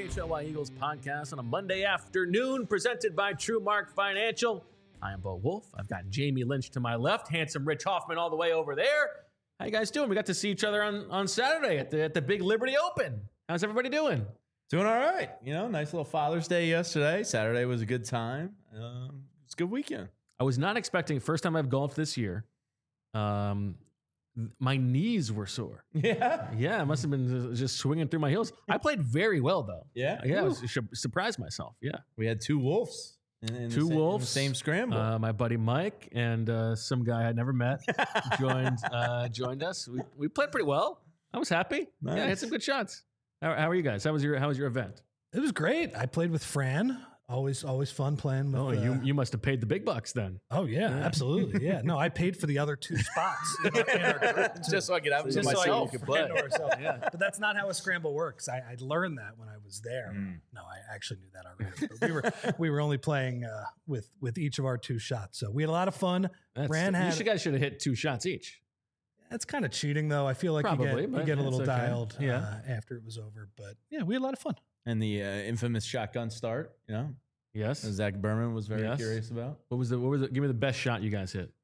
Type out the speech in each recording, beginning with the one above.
PHLY Eagles podcast on a Monday afternoon, presented by TrueMark Financial. I am Bo Wolf. I've got Jamie Lynch to my left, handsome Rich Hoffman all the way over there. How you guys doing? We got to see each other on Saturday at the Big Liberty Open. How's everybody doing? Doing all right. You know, nice little Father's Day yesterday. Saturday was a good time. It's a good weekend. I was not expecting, first time I've golfed this year, my knees were sore. Yeah. Yeah, I must have been just swinging through my heels. I played very well, though. Yeah? Yeah, I was surprised myself. Yeah. We had two wolves. In Two wolves. in the same scramble. My buddy Mike and some guy I'd never met joined us. We played pretty well. I was happy. Nice. Yeah, I had some good shots. How are you guys? How was your event? It was great. I played with Fran. Always fun playing with. Oh, you must have paid the big bucks then. Oh yeah, absolutely. Yeah. No, I paid for the other two spots in our group Just so I could have them to just so myself. I could play. Yeah. But that's not how a scramble works. I learned that when I was there. No, I actually knew that already. But we were only playing with each of our two shots, so we had a lot of fun. You guys should have hit 2 shots each. That's kind of cheating, though. I feel like Probably, you but get a it's little okay. dialed Yeah. after it was over. But yeah, we had a lot of fun. And the infamous shotgun start, you know, Yes. that Zach Berman was very Yes. curious about. What was it? Give me the best shot you guys hit.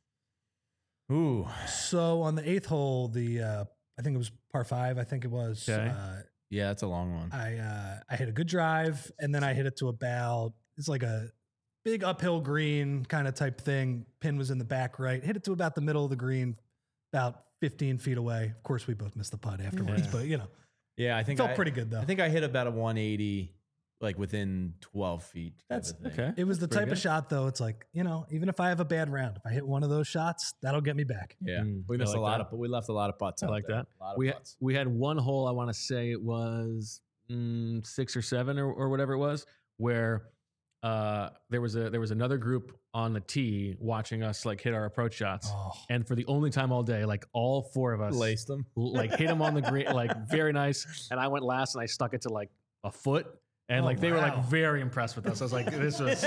Ooh. So on the 8th hole, I think it was par 5. I think it was. Okay. Yeah, that's a long one. I hit a good drive, and then I hit it to about, it's like a big uphill green kind of type thing. Pin was in the back right. Hit it to about the middle of the green, about 15 feet away. Of course, we both missed the putt afterwards, Yeah. but you know, Yeah, I think felt pretty good though. I think I hit about a 180, like within 12 feet. type That's of thing. Okay. it was the That's pretty type of good. shot though. It's like, you know, even if I have a bad round, if I hit one of those shots, that'll get me back. Yeah, I we missed like a lot that. but we left a lot of putts. I out like there. that. A lot of putts. We had one hole, I want to say it was 6 or 7 or whatever it was, where there was another group on the tee watching us like hit our approach shots. Oh, And for the only time all day, like all 4 of us Laced them. like hit them on the green, like very nice. And I went last and I stuck it to like a foot. And Oh, like they were like wow. very impressed with us. I was like, this was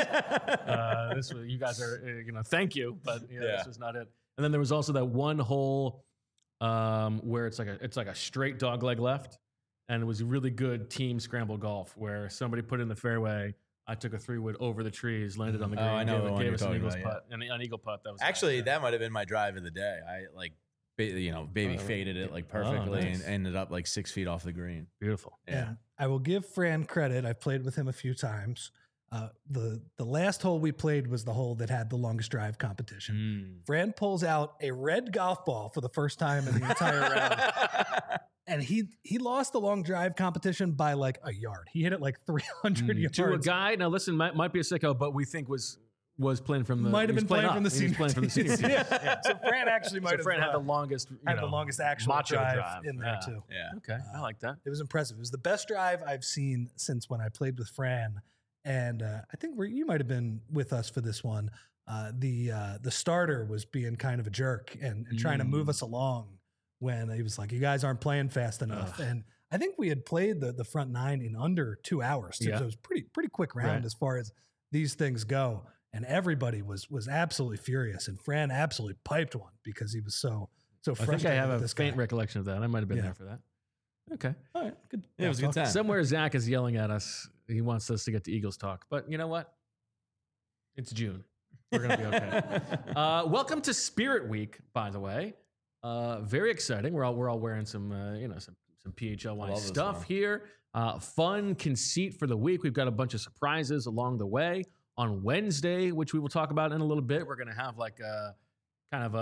you guys are thank you, but Yeah. this was not it. And then there was also that one hole where it's like a straight dog leg left, and it was really good team scramble golf where somebody put in the fairway. I took a 3-wood over the trees, landed on the Oh, green, I know the one gave you're us an talking eagle's about, putt, an eagle putt. That was Actually, that might have been my drive of the day. I like, baby Oh, faded it like perfectly nice. and ended up like 6 feet off the green. beautiful. Yeah. And I will give Fran credit. I've played with him a few times. The last hole we played was the hole that had the longest drive competition. Fran pulls out a red golf ball for the first time in the entire round. And he lost the long drive competition by like a yard. He hit it like 300 yards. To a guy, now listen, might be a sicko, but we think was playing from the Might have he was been playing up. from the He was senior playing from the senior team. team. Yeah. So Fran actually might So have Fran had the longest, the longest actual macho drive in there Yeah. too. Yeah. Okay, I like that. It was impressive. It was the best drive I've seen since when I played with Fran. And I think you might have been with us for this one. The starter was being kind of a jerk and trying to move us along when he was like, "You guys aren't playing fast enough." And I think we had played the front 9 in under 2 hours. Too. Yeah. So it was pretty quick round Right. as far as these things go. And everybody was absolutely furious. And Fran absolutely piped one because he was so I frustrated. think I have with a this faint guy. recollection of that. I might have been Yeah. there for that. Okay. All right, good. Yeah, it was a good talk. time. Somewhere Zach is yelling at us. He wants us to get to Eagles talk. But you know what? It's June. We're going to be okay. Welcome to Spirit Week, by the way. Very exciting. We're all wearing some PHLY love this stuff one. here. Fun conceit for the week. We've got a bunch of surprises along the way. On Wednesday, which we will talk about in a little bit, we're going to have like a kind of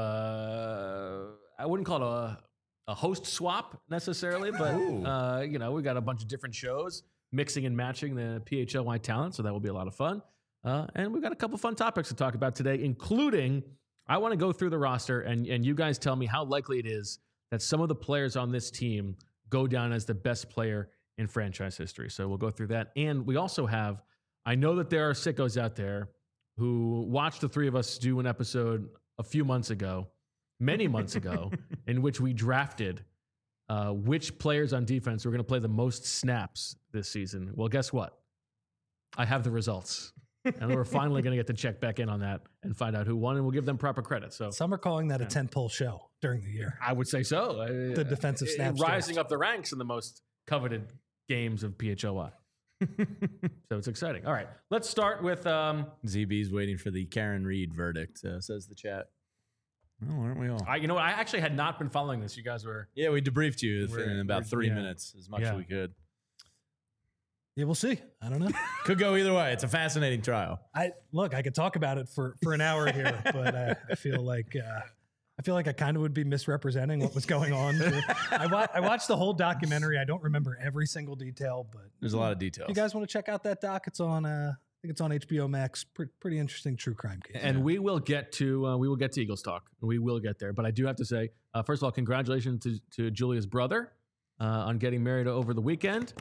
I wouldn't call it a host swap necessarily, but we got a bunch of different shows mixing and matching the PHLY talent, so that will be a lot of fun. And we've got a couple fun topics to talk about today, including I want to go through the roster and you guys tell me how likely it is that some of the players on this team go down as the best player in franchise history. So we'll go through that. And we also have, I know that there are sickos out there who watched the 3 of us do an episode a few months ago, many months ago, in which we drafted which players on defense were going to play the most snaps this season. Well, guess what? I have the results. And we're finally going to get to check back in on that and find out who won, and we'll give them proper credit. So Some are calling that a 10-pole show during the year. I would say so. The defensive snaps rising draft. up the ranks in the most coveted games of PHLY. So it's exciting. All right, let's start with ZB's waiting for the Karen Reed verdict, says the chat. Oh, aren't we all? you know what? I actually had not been following this. You guys were. Yeah, we debriefed you We're- in about we're- 3 yeah. minutes, as much as we could. Yeah, we'll see. I don't know. Could go either way. It's a fascinating trial. I could talk about it for an hour here, but I feel like I kind of would be misrepresenting what was going on. I watched the whole documentary. I don't remember every single detail, but There's a lot of details. if you guys want to check out that doc, it's on. I think it's on HBO Max. Pretty interesting true crime case. And we will get to Eagles talk. We will get there. But I do have to say, first of all, congratulations to Julia's brother on getting married over the weekend.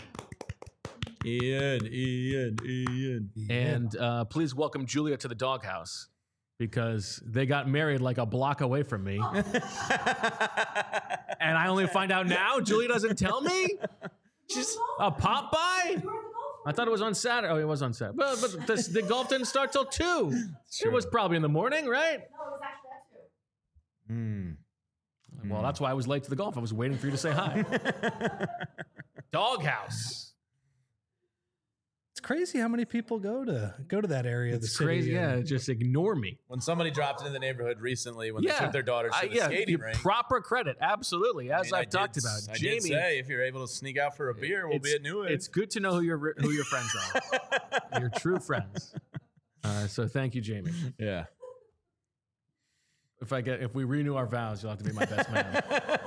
Ian. And please welcome Julia to the doghouse because they got married like a block away from me. And I only find out now. Julia doesn't tell me. She's a pop by. I thought it was on Saturday. Oh, it was on Saturday. But the golf didn't start till 2. It was probably in the morning, right? No, it was actually at 2. Well, that's why I was late to the golf. I was waiting for you to say hi. Doghouse. It's crazy how many people go to that area. It's of the city crazy. Yeah, and- just ignore me. When somebody dropped into the neighborhood recently, when they took their daughters to the skating rink. Proper credrit, absolutely. As I've talked about, I Jamie. did say if you're able to sneak out for a beer, we'll be at New Age. It's good to know who your friends are. Your true friends. So thank you, Jamie. Yeah. If we renew our vows, you'll have to be my best man.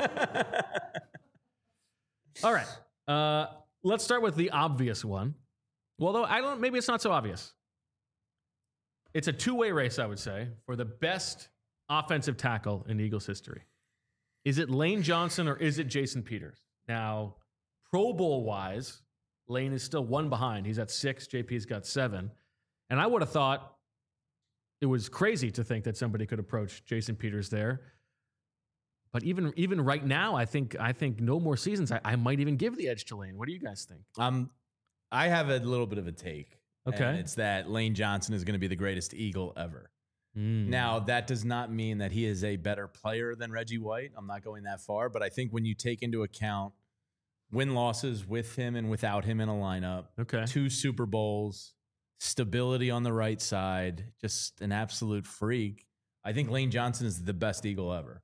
All right. Let's start with the obvious one. Well, though maybe it's not so obvious. It's a two-way race, I would say, for the best offensive tackle in Eagles history. Is it Lane Johnson or is it Jason Peters? Now, Pro Bowl-wise, Lane is still one behind. He's at 6. JP's got 7. And I would have thought it was crazy to think that somebody could approach Jason Peters there. But even right now, I think no more seasons. I might even give the edge to Lane. What do you guys think? I have a little bit of a take. Okay. And it's that Lane Johnson is going to be the greatest Eagle ever. Now, that does not mean that he is a better player than Reggie White. I'm not going that far. But I think when you take into account win-losses with him and without him in a lineup, Okay. 2 Super Bowls, stability on the right side, just an absolute freak, I think Lane Johnson is the best Eagle ever.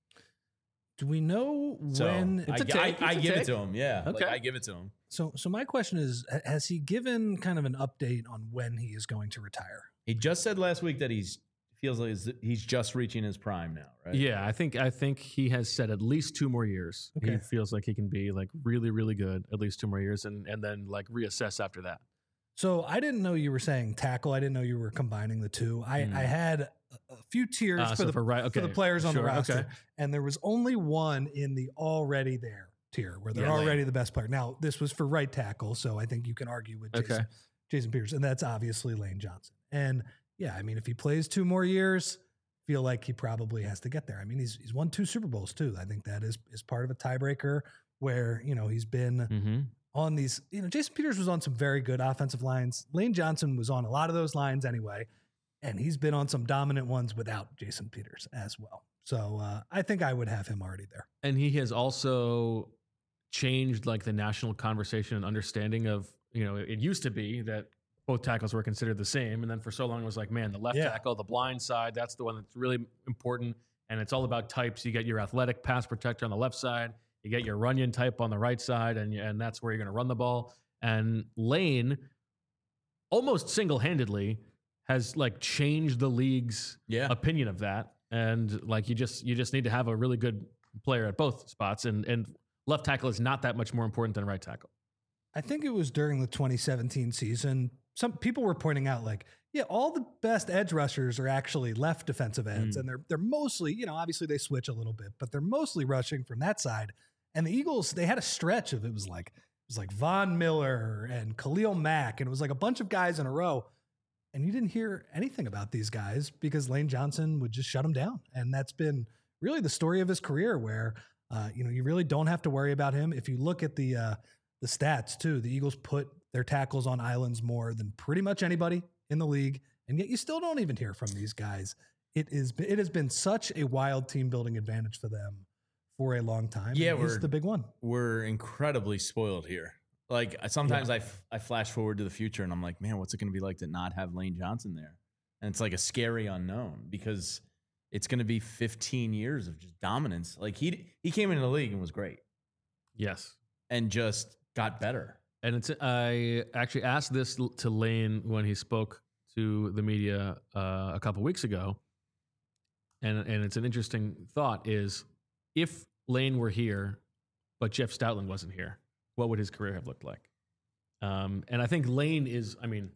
Do we know So when? It's a take. I It's a give take. it to him. Yeah. Okay. I give it to him. So my question is, has he given kind of an update on when he is going to retire? He just said last week that feels like he's just reaching his prime now, right? Yeah, I think he has said at least 2 more years. He Okay. feels like he can be like really, really good at least 2 more years and then like reassess after that. So I didn't know you were saying tackle. I didn't know you were combining the two. I had a few tiers for the players on the roster, Okay. and there was only one in the already there tier where they're Yeah, already the best player. Now this was for right tackle, so I think you can argue with Jason Peters, and that's obviously Lane Johnson. And yeah, I mean, if he plays 2 more years, feel like he probably has to get there. I mean, he's won 2 Super Bowls too. I think that is part of a tiebreaker where he's been. On these, Jason Peters was on some very good offensive lines. Lane Johnson was on a lot of those lines anyway, and he's been on some dominant ones without Jason Peters as well. So I think I would have him already there. And he has also changed like the national conversation and understanding of, it used to be that both tackles were considered the same. And then for so long it was like, man, the left tackle, the blind side, that's the one that's really important. And it's all about types. You get your athletic pass protector on the left side. You get your Runyon type on the right side, and that's where you're going to run the ball. And Lane, almost single-handedly, has like changed the league's opinion of that. And like you just need to have a really good player at both spots. And left tackle is not that much more important than right tackle. I think it was during the 2017 season. Some people were pointing out like, yeah, all the best edge rushers are actually left defensive ends, and they're mostly, obviously they switch a little bit, but they're mostly rushing from that side. And the Eagles, they had a stretch of it was like Von Miller and Khalil Mack, and it was like a bunch of guys in a row. And you didn't hear anything about these guys because Lane Johnson would just shut them down. And that's been really the story of his career where, you really don't have to worry about him. If you look at the stats too, the Eagles put their tackles on islands more than pretty much anybody in the league. And yet you still don't even hear from these guys. It has been such a wild team building advantage for them for a long time. Yeah, it's the big one. We're incredibly spoiled here. Like sometimes I flash forward to the future and I'm like, man, what's it going to be like to not have Lane Johnson there? And it's like a scary unknown because it's going to be 15 years of just dominance. Like he came into the league and was great. Yes. And just got better. And I actually asked this to Lane when he spoke to the media a couple weeks ago. And it's an interesting thought is if Lane were here, but Jeff Stoutland wasn't here, what would his career have looked like? And I think Lane is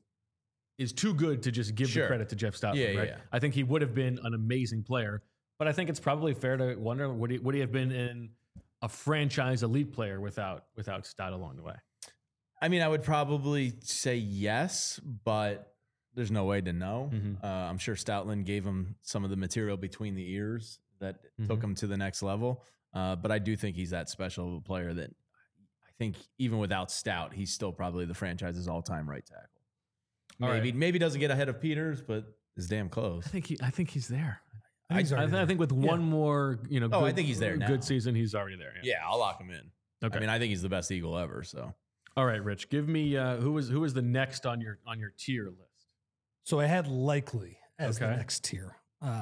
too good to just give the credit to Jeff Stoutland, right? Yeah. I think he would have been an amazing player, but I think it's probably fair to wonder, would he have been in a franchise elite player without Stout along the way? I mean, I would probably say yes, but there's no way to know. Mm-hmm. I'm sure Stoutland gave him some of the material between the ears that took him to the next level. But I do think he's that special of a player that I think even without Stout, he's still probably the franchise's all-time right tackle. Maybe doesn't get ahead of Peters, but is damn close. I think he's there. I think with one more, I think he's there now. Good season, he's already there. Yeah, I'll lock him in. Okay. I mean, I think he's the best Eagle ever. So, all right, Rich, give me who was the next on your tier list? So I had likely as the next tier,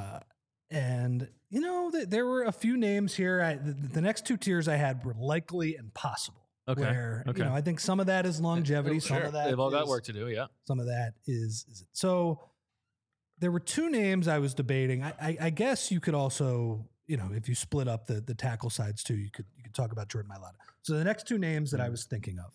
and there were a few names here. The next two tiers I had were likely and possible. Okay. Where, I think some of that is longevity. Some of that they've all got work to do. Yeah. Some of that is so. There were two names I was debating. I guess you could also, if you split up the tackle sides too, you could talk about Jordan Mailata. So the next two names that I was thinking of,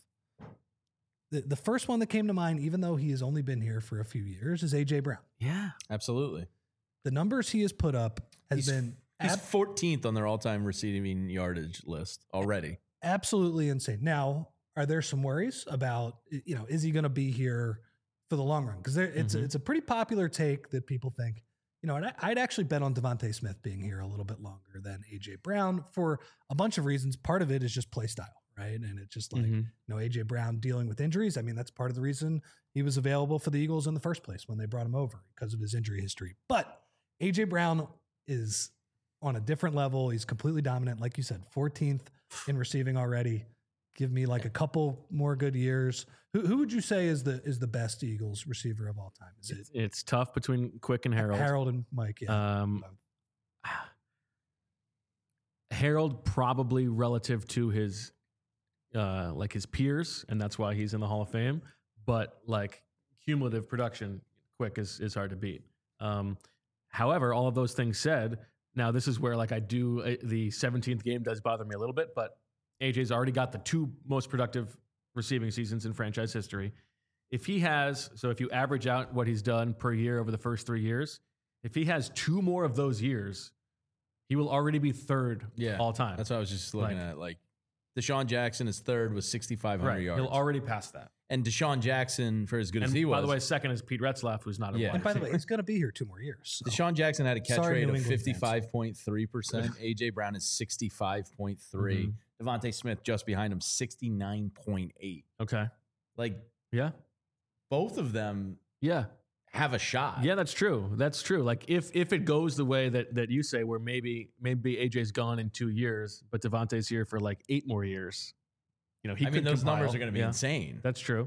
the first one that came to mind, even though he has only been here for a few years, is AJ Brown. Yeah, absolutely. The numbers he has put up he's 14th on their all-time receiving yardage list already. Absolutely insane. Now, are there some worries about, is he going to be here for the long run? Because it's a pretty popular take that people think, I'd actually bet on Devontae Smith being here a little bit longer than AJ Brown for a bunch of reasons. Part of it is just play style, right? And it's just like, AJ Brown dealing with injuries. I mean, that's part of the reason he was available for the Eagles in the first place when they brought him over, because of his injury history. But AJ Brown is on a different level. He's completely dominant. Like you said, 14th in receiving already. Give me like a couple more good years. Who would you say is the best Eagles receiver of all time? It's tough between Quick and Harold. Harold and Mike, yeah. Harold probably relative to his his peers, and that's why he's in the Hall of Fame. But like cumulative production, Quick is hard to beat. However, all of those things said, now this is where the 17th game does bother me a little bit, but AJ's already got the two most productive receiving seasons in franchise history. If you average out what he's done per year over the first 3 years, if he has two more of those years, he will already be third all time. That's what I was just looking at. Like Deshaun Jackson is third with 6,500 yards. He'll already pass that. And Deshaun Jackson, for as good as he was. By the way, second is Pete Retzlaff, who's not a wide And by the way, he's going to be here 2 more years. So. Deshaun Jackson had a catch rate of 55.3%. AJ Brown is 65.3%. Devontae Smith just behind him, 69.8%. Okay. Both of them have a shot. Yeah, that's true. That's true. Like if it goes the way that you say, where maybe AJ's gone in 2 years, but Devontae's here for 8 more years. Those numbers are going to be insane. That's true.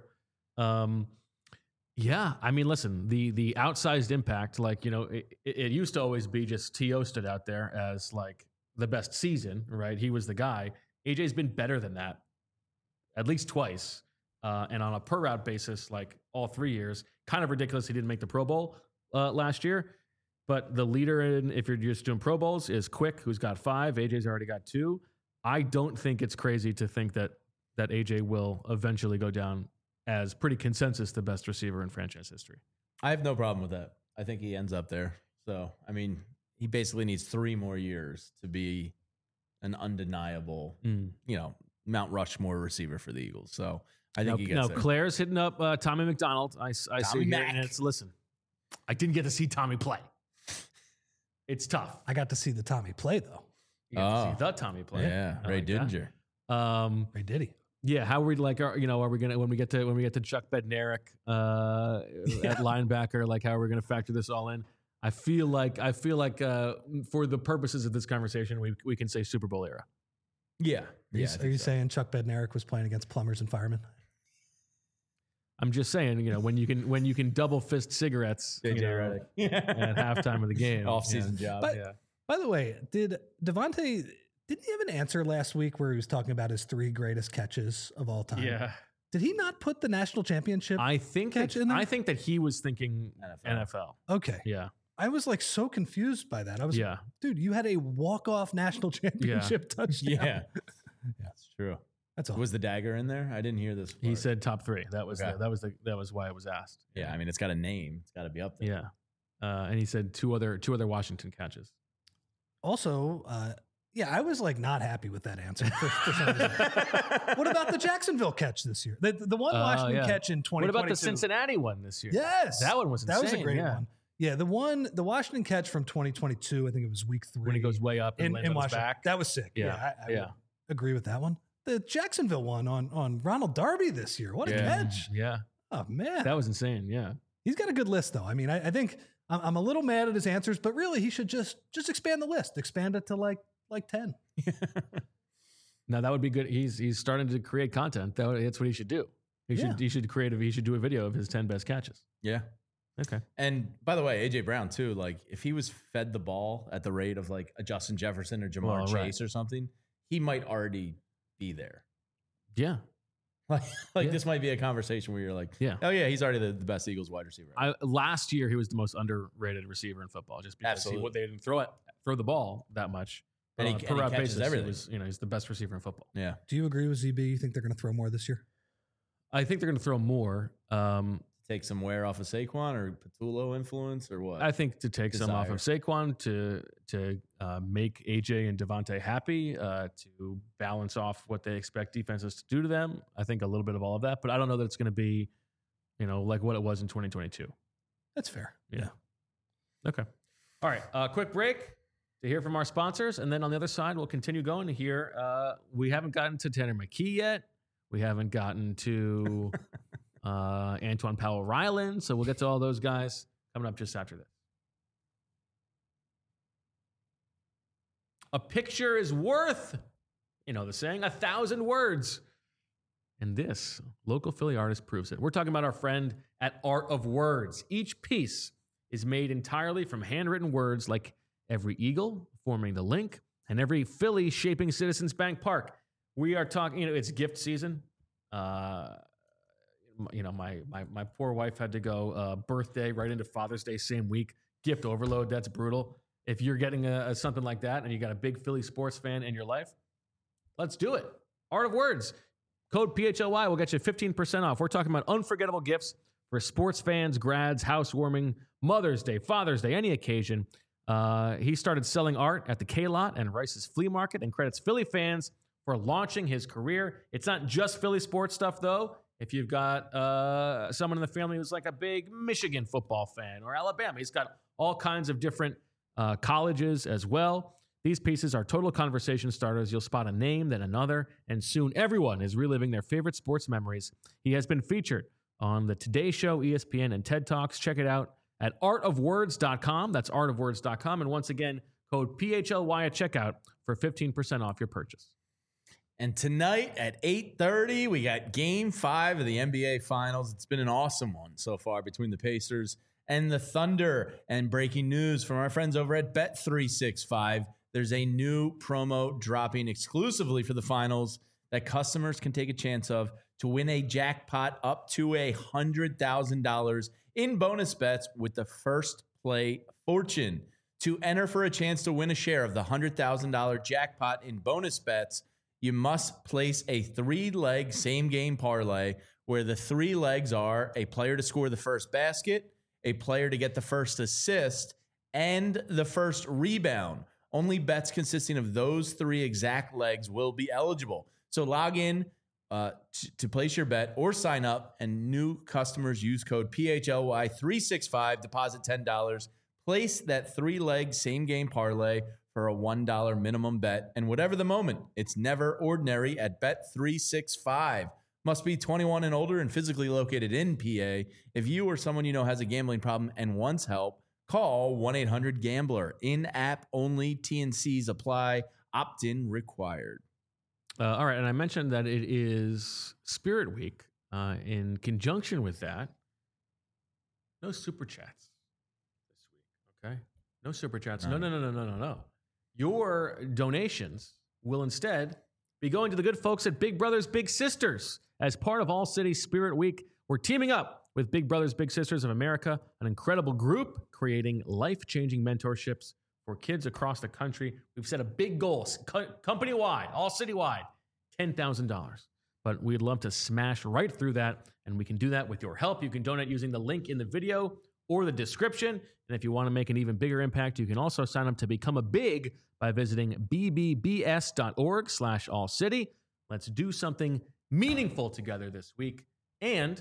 Yeah. I mean, listen, the outsized impact, it used to always be just T.O. stood out there as the best season, right? He was the guy. AJ's been better than that at least twice. And on a per route basis, all 3 years, kind of ridiculous he didn't make the Pro Bowl last year. But the leader if you're just doing Pro Bowls is Quick, who's got 5. AJ's already got 2. I don't think it's crazy to think that AJ will eventually go down as pretty consensus the best receiver in franchise history. I have no problem with that. I think he ends up there. So, I mean, he basically needs 3 more years to be an undeniable, Mount Rushmore receiver for the Eagles. So, I think he gets there. Claire's hitting up Tommy McDonald. I see here, and listen, I didn't get to see Tommy play. It's tough. I got to see the Tommy play, though. You got to see the Tommy play. Yeah, Ray Didinger. Ray Diddy. Yeah, how are we are we gonna when we get to Chuck Bednarik at linebacker? How are we gonna factor this all in? I feel like for the purposes of this conversation, we can say Super Bowl era. Yeah. Are you saying Chuck Bednarik was playing against plumbers and firemen? I'm just saying, when you can double fist cigarettes JJ Redick. at halftime of the game. Off-season job. By the way, didn't he have an answer last week where he was talking about his 3 greatest catches of all time? Yeah. Did he not put the national championship catch in there? I think that he was thinking NFL. Okay. Yeah. I was like so confused by that. I was like, dude, you had a walk-off national championship touchdown. Yeah. That's true. That's all. Was the dagger in there? I didn't hear this part. He said top 3. That was why it was asked. Yeah, I mean, it's got a name. It's got to be up there. Yeah. And he said two other Washington catches. Also, I was like not happy with that answer for some reason. What about the Jacksonville catch this year? The one Washington catch in 2022. What about the Cincinnati one this year? Yes. That one was insane. That was a great one. Yeah, the Washington catch from 2022, I think it was week 3. When he goes way up and lands on his back. That was sick. I would agree with that one. The Jacksonville one on Ronald Darby this year. What a catch. Yeah. Oh, man. That was insane. Yeah. He's got a good list, though. I mean, I think I'm a little mad at his answers, but really he should just expand the list. Expand it to like 10. Now that would be good. He's starting to create content. That's what he should do. He should do a video of his 10 best catches. Yeah. Okay. And by the way, AJ Brown too, like if he was fed the ball at the rate of like a Justin Jefferson or Jamar Chase or something, he might already be there. Yeah. This might be a conversation where you're like, oh yeah, he's already the best Eagles wide receiver. Last year, he was the most underrated receiver in football just because they didn't throw the ball that much. And he catches everything. He's the best receiver in football. Yeah. Do you agree with ZB? You think they're going to throw more this year? I think they're going to throw more. Take some wear off of Saquon or Patullo influence or what? I think to take some off of Saquon to make AJ and Devontae happy, to balance off what they expect defenses to do to them. I think a little bit of all of that, but I don't know that it's going to be, like what it was in 2022. That's fair. Yeah. Okay. All right. Quick break to hear from our sponsors. And then on the other side, we'll continue going to hear. We haven't gotten to Tanner McKee yet. We haven't gotten to Antoine Powell-Ryland. So we'll get to all those guys coming up just after this. A picture is worth, the saying, 1,000 words. And this local Philly artist proves it. We're talking about our friend at Art of Words. Each piece is made entirely from handwritten words, like every eagle forming the link and every Philly shaping Citizens Bank Park. We are talking, it's gift season. My poor wife had to go birthday right into Father's Day same week. Gift overload, that's brutal. If you're getting something like that and you got a big Philly sports fan in your life, let's do it. Art of Words. Code PHLY will get you 15% off. We're talking about unforgettable gifts for sports fans, grads, housewarming, Mother's Day, Father's Day, any occasion. He started selling art at the K-Lot and Rice's Flea Market and credits Philly fans for launching his career. It's not just Philly sports stuff, though. If you've got someone in the family who's like a big Michigan football fan or Alabama, he's got all kinds of different colleges as well. These pieces are total conversation starters. You'll spot a name, then another, and soon everyone is reliving their favorite sports memories. He has been featured on the Today Show, ESPN, and TED Talks. Check it out at artofwords.com. That's artofwords.com. And once again, code PHLY at checkout for 15% off your purchase. And tonight at 8:30, we got Game 5 of the NBA Finals. It's been an awesome one so far between the Pacers and the Thunder. And breaking news from our friends over at Bet365. There's a new promo dropping exclusively for the finals that customers can take a chance of to win a jackpot up to $100,000 in bonus bets with the first play fortune. To enter for a chance to win a share of the $100,000 jackpot in bonus bets, you must place a 3-leg same-game parlay where the 3 legs are a player to score the first basket, a player to get the first assist, and the first rebound. Only bets consisting of those 3 exact legs will be eligible. So log in to place your bet or sign up, and new customers use code PHLY365, deposit $10, place that 3-leg same-game parlay for a $1 minimum bet, and whatever the moment, it's never ordinary at Bet365. Must be 21 and older and physically located in PA. If you or someone you know has a gambling problem and wants help, call 1-800-GAMBLER. In-app only. T&Cs apply. Opt-in required. All right, and I mentioned that it is Spirit Week. In conjunction with that, no super chats this week. Okay, no super chats. No. Your donations will instead be going to the good folks at Big Brothers Big Sisters. As part of All City Spirit Week, we're teaming up with Big Brothers Big Sisters of America, an incredible group creating life-changing mentorships for kids across the country. We've set a big goal, company-wide, all city-wide, $10,000. But we'd love to smash right through that, and we can do that with your help. You can donate using the link in the video or the description. And if you want to make an even bigger impact, you can also sign up to become a big by visiting bbbs.org/allcity. Let's do something meaningful together this week. And,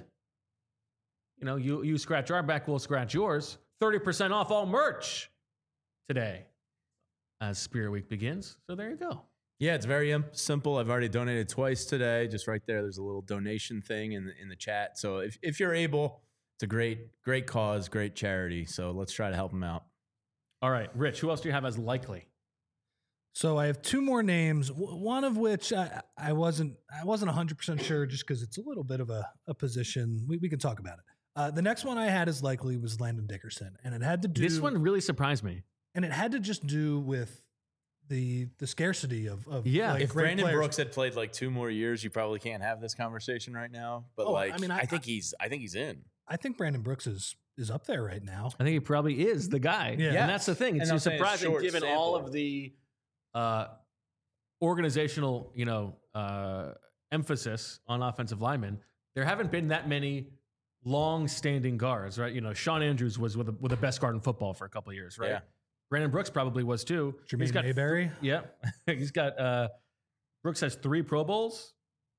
you scratch our back, we'll scratch yours. 30% off all merch today as Spirit Week begins. So there you go. Yeah, it's very simple. I've already donated twice today. Just right there, there's a little donation thing in the chat. So if you're able, it's a great cause, great charity. So let's try to help them out. All right, Rich, who else do you have as likely? So I have two more names, one of which I wasn't 100% sure just because it's a little bit of a position. We can talk about it. The next one I had as likely was Landon Dickerson, and it had to do. This one really surprised me, and it had to just do with the scarcity of if Brandon Brooks had played like 2 more years, you probably can't have this conversation right now. But I think he's in. I think Brandon Brooks is up there right now. I think he probably is the guy. Yeah. And that's the thing. It's surprising given sample. all of the organizational, emphasis on offensive linemen. There haven't been that many long-standing guards, right? Sean Andrews was with the best guard in football for a couple of years, right? Yeah. Brandon Brooks probably was too. Jermaine Mayberry. Yeah. He's got Brooks has 3 Pro Bowls.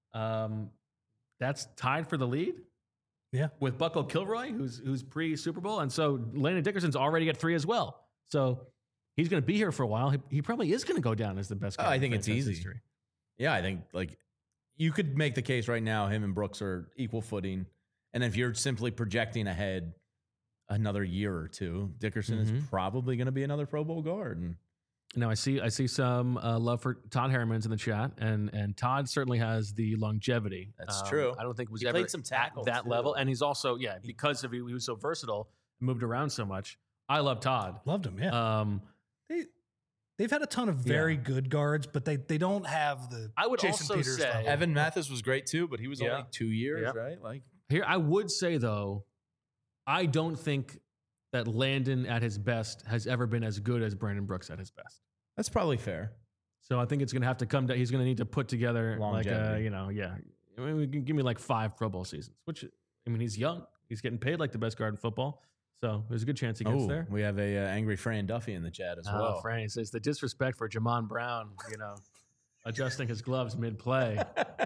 That's tied for the lead. Yeah. With Bucko Kilroy, who's pre-Super Bowl. And so Landon Dickerson's already got 3 as well. So he's going to be here for a while. He probably is going to go down as the best guy. I think it's easy. History. Yeah, I think you could make the case right now him and Brooks are equal footing. And if you're simply projecting ahead another year or two, Dickerson is probably going to be another Pro Bowl guard. And now I see some love for Todd Harriman's in the chat, and Todd certainly has the longevity. That's true. I don't think he ever played some tackle at that too. level, and he's also because of he was so versatile, moved around so much. I love Todd. Loved him. Yeah. They've had a ton of very good guards, but they don't have the. I would Jason also Peters say level. Evan Mathis was great too, but he was only 2 years, right? Here, I would say though, I don't think that Landon at his best has ever been as good as Brandon Brooks at his best. That's probably fair. So I think it's going to have to come down. He's going to need to put together longevity. Give me like 5 Pro Bowl seasons, which, he's young. He's getting paid like the best guard in football. So there's a good chance he gets there. We have a angry Fran Duffy in the chat as well. Fran says the disrespect for Jamon Brown, adjusting his gloves mid-play.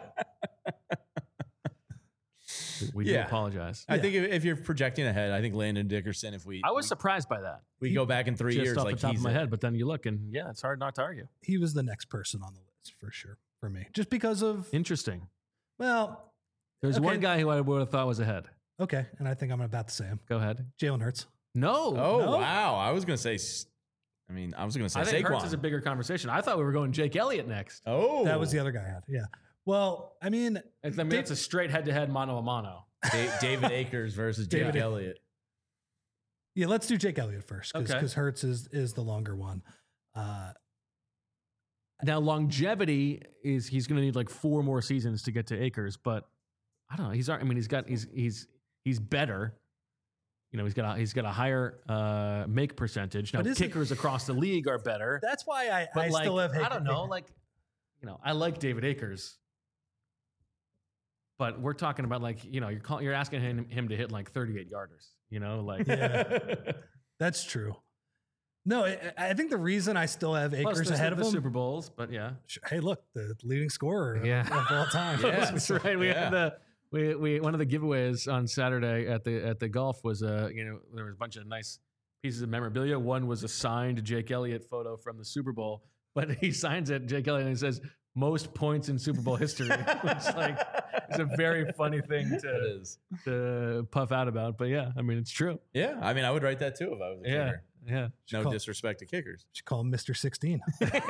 We do apologize. I think if you're projecting ahead, I think Landon Dickerson, I was surprised by that. We go back in 3 years, Just off like the top he's of my head, but then you look and it's hard not to argue. He was the next person on the list for sure for me, just because of Interesting. well. There's one guy who I would have thought was ahead. Okay, and I think I'm about to say him. Go ahead. Jalen Hurts. No. Oh, wow. I was going to say I think Hurts is a bigger conversation. I thought we were going Jake Elliott next. Oh. That was the other guy I had. Yeah. Well, It's a straight head-to-head mano-a-mano. David Akers versus Jake Elliott. Yeah, let's do Jake Elliott first because Okay. Hurts is the longer one. Now, longevity is he's going to need like 4 more seasons to get to Akers, but I don't know. He's better. He's got a higher make percentage. Now, kickers across the league are better. That's why I But still have. I don't know. I like David Akers, but we're talking about you're asking him to hit like 38 yarders. Yeah. That's true. No, I think the reason I still have Akers ahead of him. Super Bowls, but yeah. Hey, look, the leading scorer of all time. Yeah, that's right. We had we one of the giveaways on Saturday at the golf was there was a bunch of nice pieces of memorabilia. One was a signed Jake Elliott photo from the Super Bowl, but he signs it Jake Elliott and he says most points in Super Bowl history, which is a very funny thing to puff out about. But yeah, it's true. Yeah, I would write that too if I was a kicker. Yeah. No call- disrespect to kickers. Should call him Mr. 16.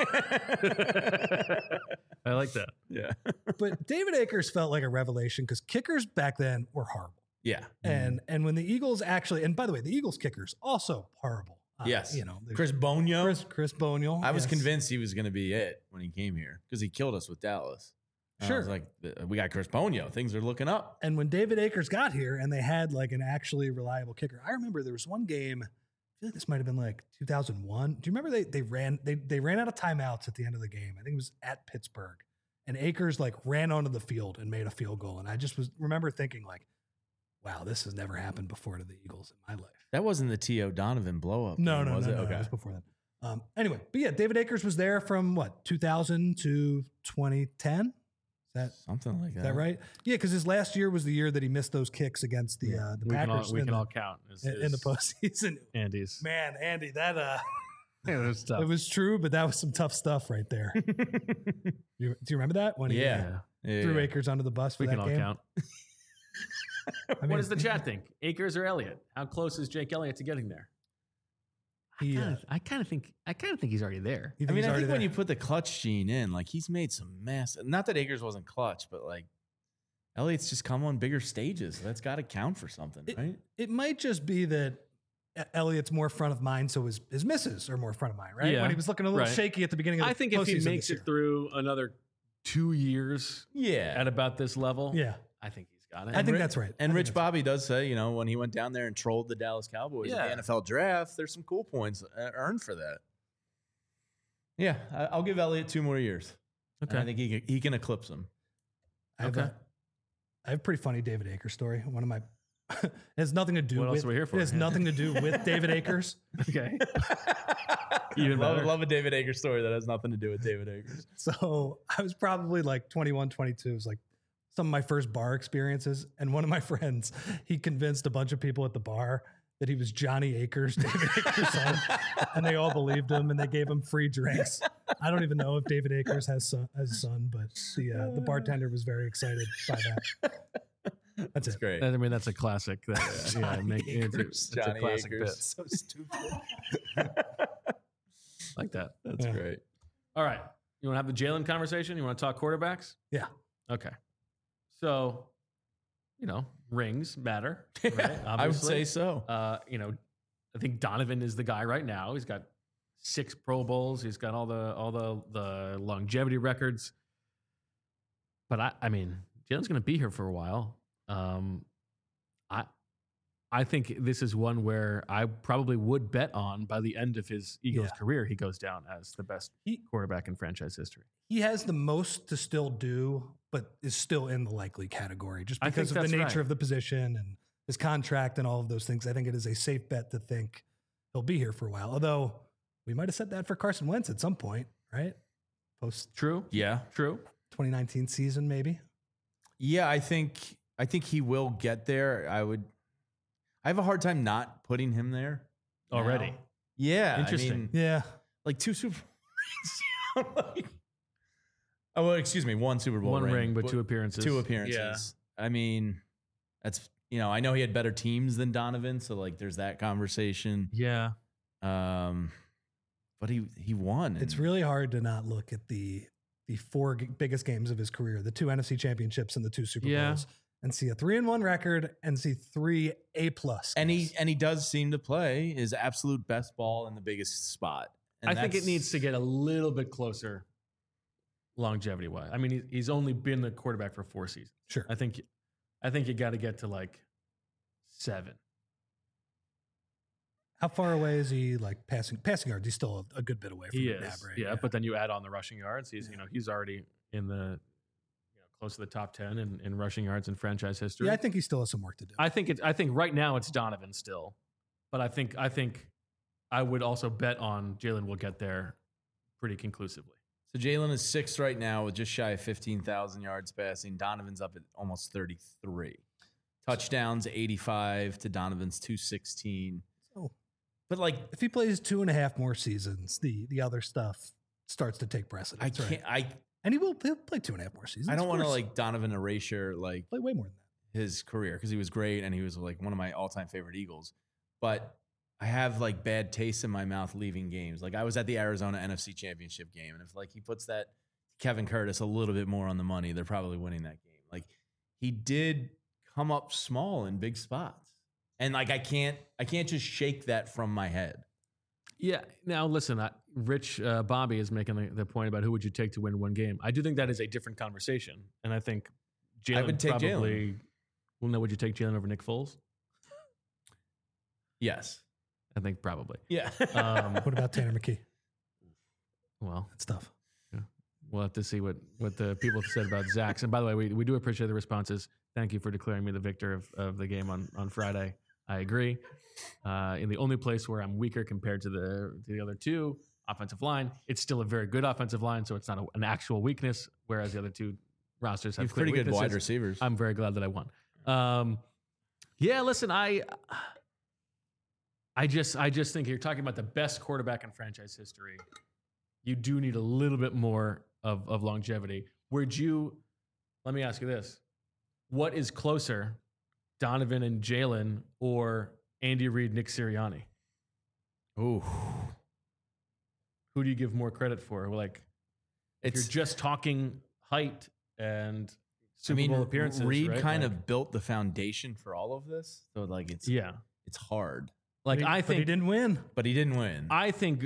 I like that. Yeah. But David Akers felt like a revelation because kickers back then were horrible. Yeah. And when the Eagles actually, and by the way, the Eagles kickers also horrible. Yes. You know, Chris Bonio. Chris Bonial. I was yes. convinced he was going to be it when he came here because he killed us with Dallas. And I Sure. was like, we got Chris Bonio. Things are looking up. And when David Akers got here and they had like an actually reliable kicker, I remember there was one game, I feel like this might have been like 2001. Do you remember they ran out of timeouts at the end of the game? I think it was at Pittsburgh. And Akers like ran onto the field and made a field goal. And I just remember thinking like, wow, this has never happened before to the Eagles in my life. That wasn't the T.O. Donovan blow up. No, was it? no, Okay. it was before that. Anyway, but yeah, David Akers was there from what, 2000 to 2010? Something like that. Is that right? Yeah, because his last year was the year that he missed those kicks against the Packers We can all count in the postseason. Andy's. Man, Andy, that Yeah, it was tough. it was true, but that was some tough stuff right there. Do you remember that when he Yeah. threw Akers under the bus for We that can all game? count. I mean, What does the chat think? Akers or Elliott? How close is Jake Elliott to getting there? He, I kind of think he's already there. you I mean, he's I already think when there? you put the clutch gene in, like he's made some massive. Not that Akers wasn't clutch, but like Elliott's just come on bigger stages. So that's got to count for something, right? It might just be that Elliott's more front of mind, so his misses are more front of mind, right? Yeah, When he was looking a little right. shaky at the beginning of the I think if he postseason makes this it through another 2 years Yeah. at about this level, year. I think he's got it. I think that's right. And I think Rich that's Bobby does say, you know, when he went down there and trolled the Dallas Cowboys Yeah. in the NFL draft, there's some cool points earned for that. Yeah, I'll give Elliott 2 more years. Okay. And I think he can eclipse him. I have, Okay. I have a pretty funny David Akers story. One of my it has nothing to do What else with are we here for? It has nothing to do with David Akers. Okay. Even love, better. love a David Akers story that has nothing to do with David Akers. So I was probably like 21, 22. It was like some of my first bar experiences. And one of my friends, he convinced a bunch of people at the bar that he was Johnny Akers, David Akers' son. And they all believed him and they gave him free drinks. I don't even know if David Akers has a son, but the bartender was very excited by that. That's it. Great. I mean, that's a classic. It's a Johnny classic Akers. bit. So stupid. Like that. That's Yeah. great. All right. You want to have the Jalen conversation? You want to talk quarterbacks? Yeah. Okay. So, rings matter. Right? I would say so. I think Donovan is the guy right now. He's got 6 Pro Bowls. He's got all the longevity records. But I mean, Jalen's going to be here for a while. I think this is one where I probably would bet on by the end of his Eagles career, he goes down as the best quarterback in franchise history. He has the most to still do, but is still in the likely category just I think because of the that's nature right. of the position and his contract and all of those things. I think it is a safe bet to think he'll be here for a while. Although we might have said that for Carson Wentz at some point, right? Post True. Yeah. True. 2019 season, maybe. Yeah, I think he will get there. I have a hard time not putting him there Already. now. Yeah. Interesting. I mean, Yeah. like 2 Super Bowls. Oh, well, excuse me. 1 Super Bowl One ring, but but 2 appearances. 2 appearances. I mean, that's, I know he had better teams than Donovan. So like there's that conversation. Yeah. But he won. It's and- really hard to not look at the 4 biggest games of his career, the 2 NFC championships and the 2 Super Yeah. Bowls, and see a 3-1 record and see 3 A+. and he does seem to play his absolute best ball in the biggest spot. And I think it that's- needs to get a little bit closer longevity wise. I mean, he's only been the quarterback for 4 seasons. Sure. I think you got to get to like 7. How far away is he, like passing yards? He's still a good bit away from He McNabb, is. right? Yeah, but then you add on the rushing yards. He's he's already in the close to the top 10 in rushing yards in franchise history. Yeah, I think he still has some work to do. I think right now it's Donovan still, but I think I would also bet on Jalen will get there pretty conclusively. So Jalen is 6th right now with just shy of 15,000 yards passing. Donovan's up at almost 33. Touchdowns 85 to Donovan's 216. So But like if he plays 2.5 more seasons, the other stuff starts to take precedence. I can't right? And he'll play 2.5 more seasons. I don't of want to course. like Donovan erasure like play way more than that. his career because he was great and he was like one of my all-time favorite Eagles. But I have like bad taste in my mouth leaving games. Like I was at the Arizona NFC Championship game, and if like he puts that Kevin Curtis a little bit more on the money, they're probably winning that game. Like he did come up small in big spots, and like I can't just shake that from my head. Yeah. Now listen, Rich Bobby is making the point about who would you take to win one game. I do think that is a different conversation, and I think Jalen I would take probably. Jalen. Well, no, would you take Jalen over Nick Foles? Yes. I think probably. Yeah. What about Tanner McKee? Well, That's tough. we'll have to see what the people said about Zach's. And by the way, we do appreciate the responses. Thank you for declaring me the victor of the game on Friday. I agree. In the only place where I'm weaker compared to the other two, offensive line, it's still a very good offensive line, so it's not an actual weakness, whereas the other two rosters have pretty good weaknesses. wide receivers. I'm very glad that I won. Yeah, listen, I just think you're talking about the best quarterback in franchise history. You do need a little bit more of longevity. Let me ask you this. What is closer, Donovan and Jalen or Andy Reid, Nick Sirianni? Ooh. Who do you give more credit for? Like, if you're just talking height and Super Bowl appearances. Reid right? kind like, of built the foundation for all of this. So like it's hard. Like But I he think didn't win. But he didn't win. I think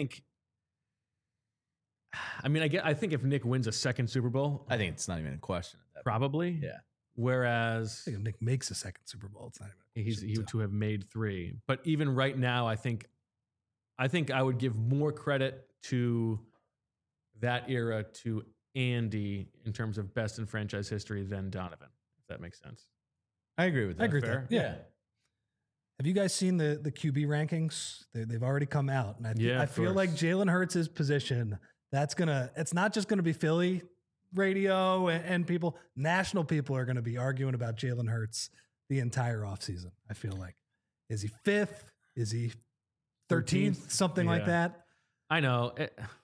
I think if Nick wins a second Super Bowl, I think it's not even a question at that point. probably. Yeah. Whereas I think if Nick makes a second Super Bowl, it's not even. he would to have made 3. But even right now, I think I would give more credit to that era to Andy in terms of best in franchise history than Donovan, if that makes sense. I agree with that. I agree with Fair? that. Yeah. Have you guys seen the QB rankings? They've already come out, and I feel course. like Jalen Hurts' position. It's not just gonna be Philly radio and people. National people are gonna be arguing about Jalen Hurts the entire offseason. I feel like, is he 5th? Is he 13th? Something like Yeah. that. I know.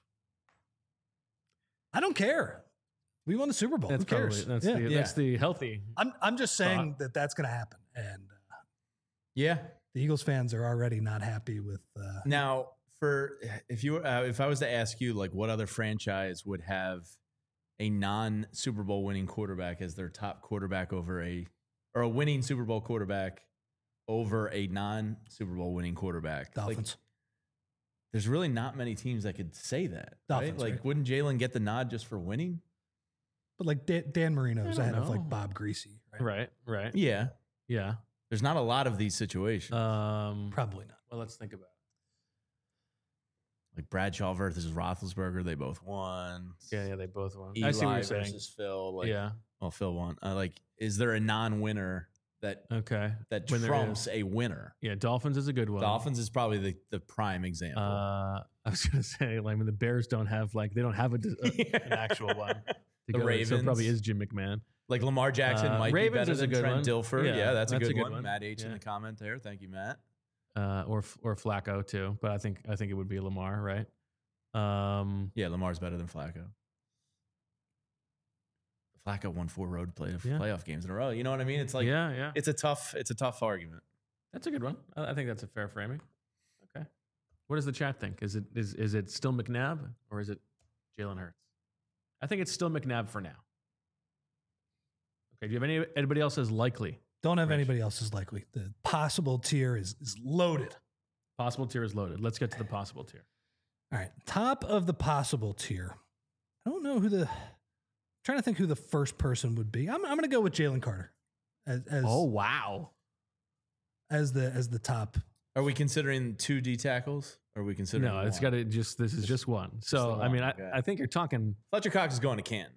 I don't care. We won the Super Bowl. Who cares? That's the healthy. I'm just saying that's going to happen, and Yeah. the Eagles fans are already not happy with. Now, if I was to ask you, like, what other franchise would have a non-Super Bowl winning quarterback as their top quarterback or a winning Super Bowl quarterback over a non-Super Bowl winning quarterback? Dolphins. Like, there's really not many teams that could say that. Dolphins, right? Like, right? wouldn't Jalen get the nod just for winning? But like Dan Marino's I don't ahead of know. like Bob Greasy, right? Right. Yeah. Yeah. There's not a lot of these situations. Probably not. Well, let's think about it. Like Bradshaw versus Roethlisberger, they both won. Yeah, they both won. Eli I see what you're saying. versus Phil. Like, Yeah. Well, Phil won. Like, is there a non-winner that Okay. that When there trumps is. a winner? Yeah, Dolphins is a good one. Dolphins is probably the prime example. I was gonna say, like, when the Bears they don't have an actual one. The So it Ravens. probably is Jim McMahon. Like Lamar Jackson might Ravens be better is a than good Trent one. Dilfer. Yeah, that's a good one. one. Matt H in Yeah. the comment there. Thank you, Matt. Or Flacco too, but I think it would be Lamar, right? Yeah, Lamar's better than Flacco. Flacco won 4 road playoff games in a row. You know what I mean? It's like yeah. it's a tough argument. That's a good one. I think that's a fair framing. Okay. What does the chat think? Is it still McNabb or is it Jalen Hurts? I think it's still McNabb for now. Okay. Do you have anybody else as likely? Don't have Rich. anybody else as likely. The possible tier is loaded. Possible tier is loaded. Let's get to the possible tier. All right, top of the possible tier. I don't know trying to think who the first person would be. I'm going to go with Jalen Carter as wow. as the top. Are we considering 2 D tackles? Or are we considering No, it's one? got to this is just one. So the I mean, one, okay. I think you're talking. Fletcher Cox is going to Canton.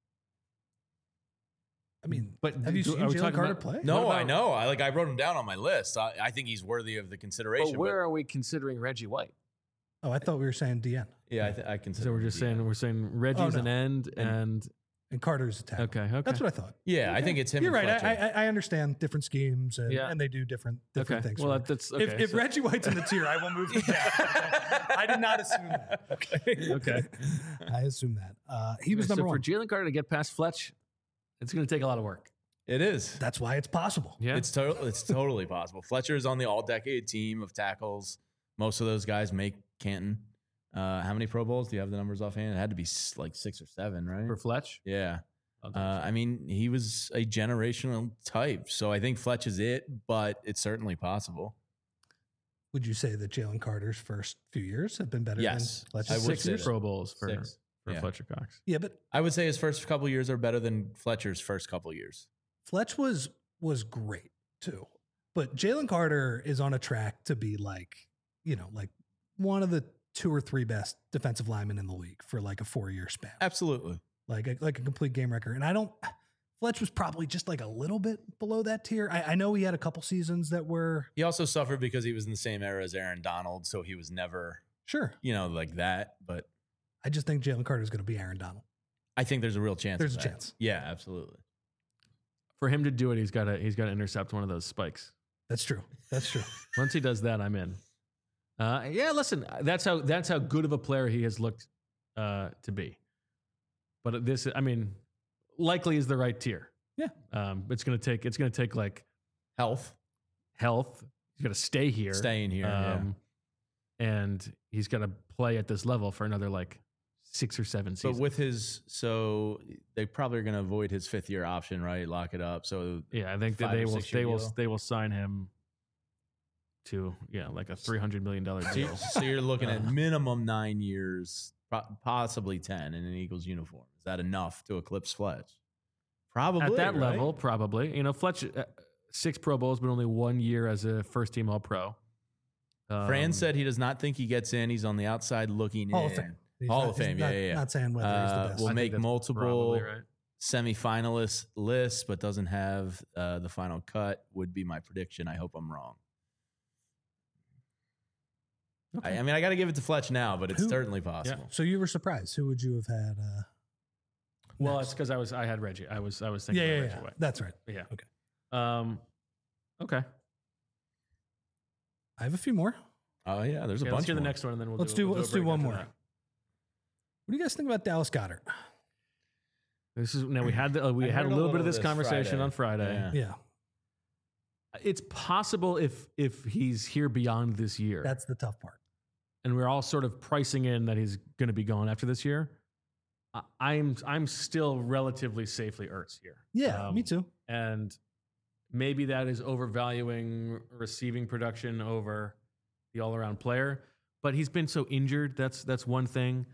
I mean, But have you do- seen are we Jalen talking Carter about- play? No, What I about- know. I wrote him down on my list. I think he's worthy of the consideration. But where are we considering Reggie White? Oh, I thought we were saying DN yeah, I consider. So we're him just DN. saying Reggie's no. an end and and Carter's a tackle. okay. That's what I thought. Yeah, I think it's him. You're and right. Fletcher. I understand different schemes and, Yeah. and they do different okay. things. Well, for me. that's okay. If Reggie White's in the tier, I will move him down. I did not assume that. Okay. Okay. I assume that. He was so number for one. Jalen Carter to get past Fletch, it's going to take a lot of work. It is. That's why it's possible. Yeah. It's totally possible. Fletcher is on the all-decade team of tackles. Most of those guys make Canton. How many Pro Bowls? Do you have the numbers offhand? It had to be like 6 or 7, right? For Fletch? Yeah. I'll double check. I mean, he was a generational type. So I think Fletch is it, but it's certainly possible. Would you say that Jalen Carter's first few years have been better Yes. than Fletcher's? I would 6 say that. Pro Bowls for 6. Yeah. Fletcher Cox. Yeah, but I would say his first couple years are better than Fletcher's first couple years. Fletch was great too. But Jalen Carter is on a track to be like one of the 2 or 3 best defensive linemen in the league for like a 4-year span. Absolutely. Like a complete game record. And Fletch was probably just like a little bit below that tier. I know he had a couple seasons that were He also suffered because he was in the same era as Aaron Donald, so he was never, sure. like that. But I just think Jalen Carter is going to be Aaron Donald. I think there's a real chance. There's of a that. chance. Yeah, absolutely. For him to do it, he's got to intercept one of those spikes. That's true. That's true. Once he does that, I'm in. Yeah, listen, that's how good of a player he has looked to be. But this, I mean, likely is the right tier. Yeah. It's gonna take like Health. He's got to stay here, Staying here. and he's got to play at this level for another like 6 or 7 seasons. But with so they probably are going to avoid his 5th-year option, right? Lock it up. So yeah, I think that 5 or 6 year deal. they will sign him to like a $300 million deal. So you're looking at minimum 9 years, possibly 10 in an Eagles uniform. Is that enough to eclipse Fletch? Probably At that right? level, probably. Fletch 6 Pro Bowls, but only 1 year as a first-team All-Pro. Fran said he does not think he gets in. He's on the outside looking Hall in. of Fame. He's Hall not- of Fame, he's yeah. Not saying whether he's the best. Will I think make that's multiple probably right. semifinalist lists, but doesn't have the final cut. Would be my prediction. I hope I'm wrong. Okay. I mean, I got to give it to Fletch now, but it's Who- certainly possible. So you were surprised. Who would you have had? Well, next? it's because I had Reggie. I was thinking yeah, of yeah, Reggie yeah. White. That's right. Yeah. Okay. Okay. I have a few more. Oh yeah, there's a Okay, bunch. let's do the more. next one, and then we'll Let's do do a break one after more. that. What do you guys think about Dallas Goedert? This is now we had a little bit of this conversation on Friday. Yeah. Yeah, It's possible if he's here beyond this year, that's the tough part. and we're all sort of pricing in that he's going to be gone after this year. I'm still relatively safely Ertz here. Yeah, me too. And maybe that is overvaluing receiving production over the all-around player. But he's been so injured. That's one thing.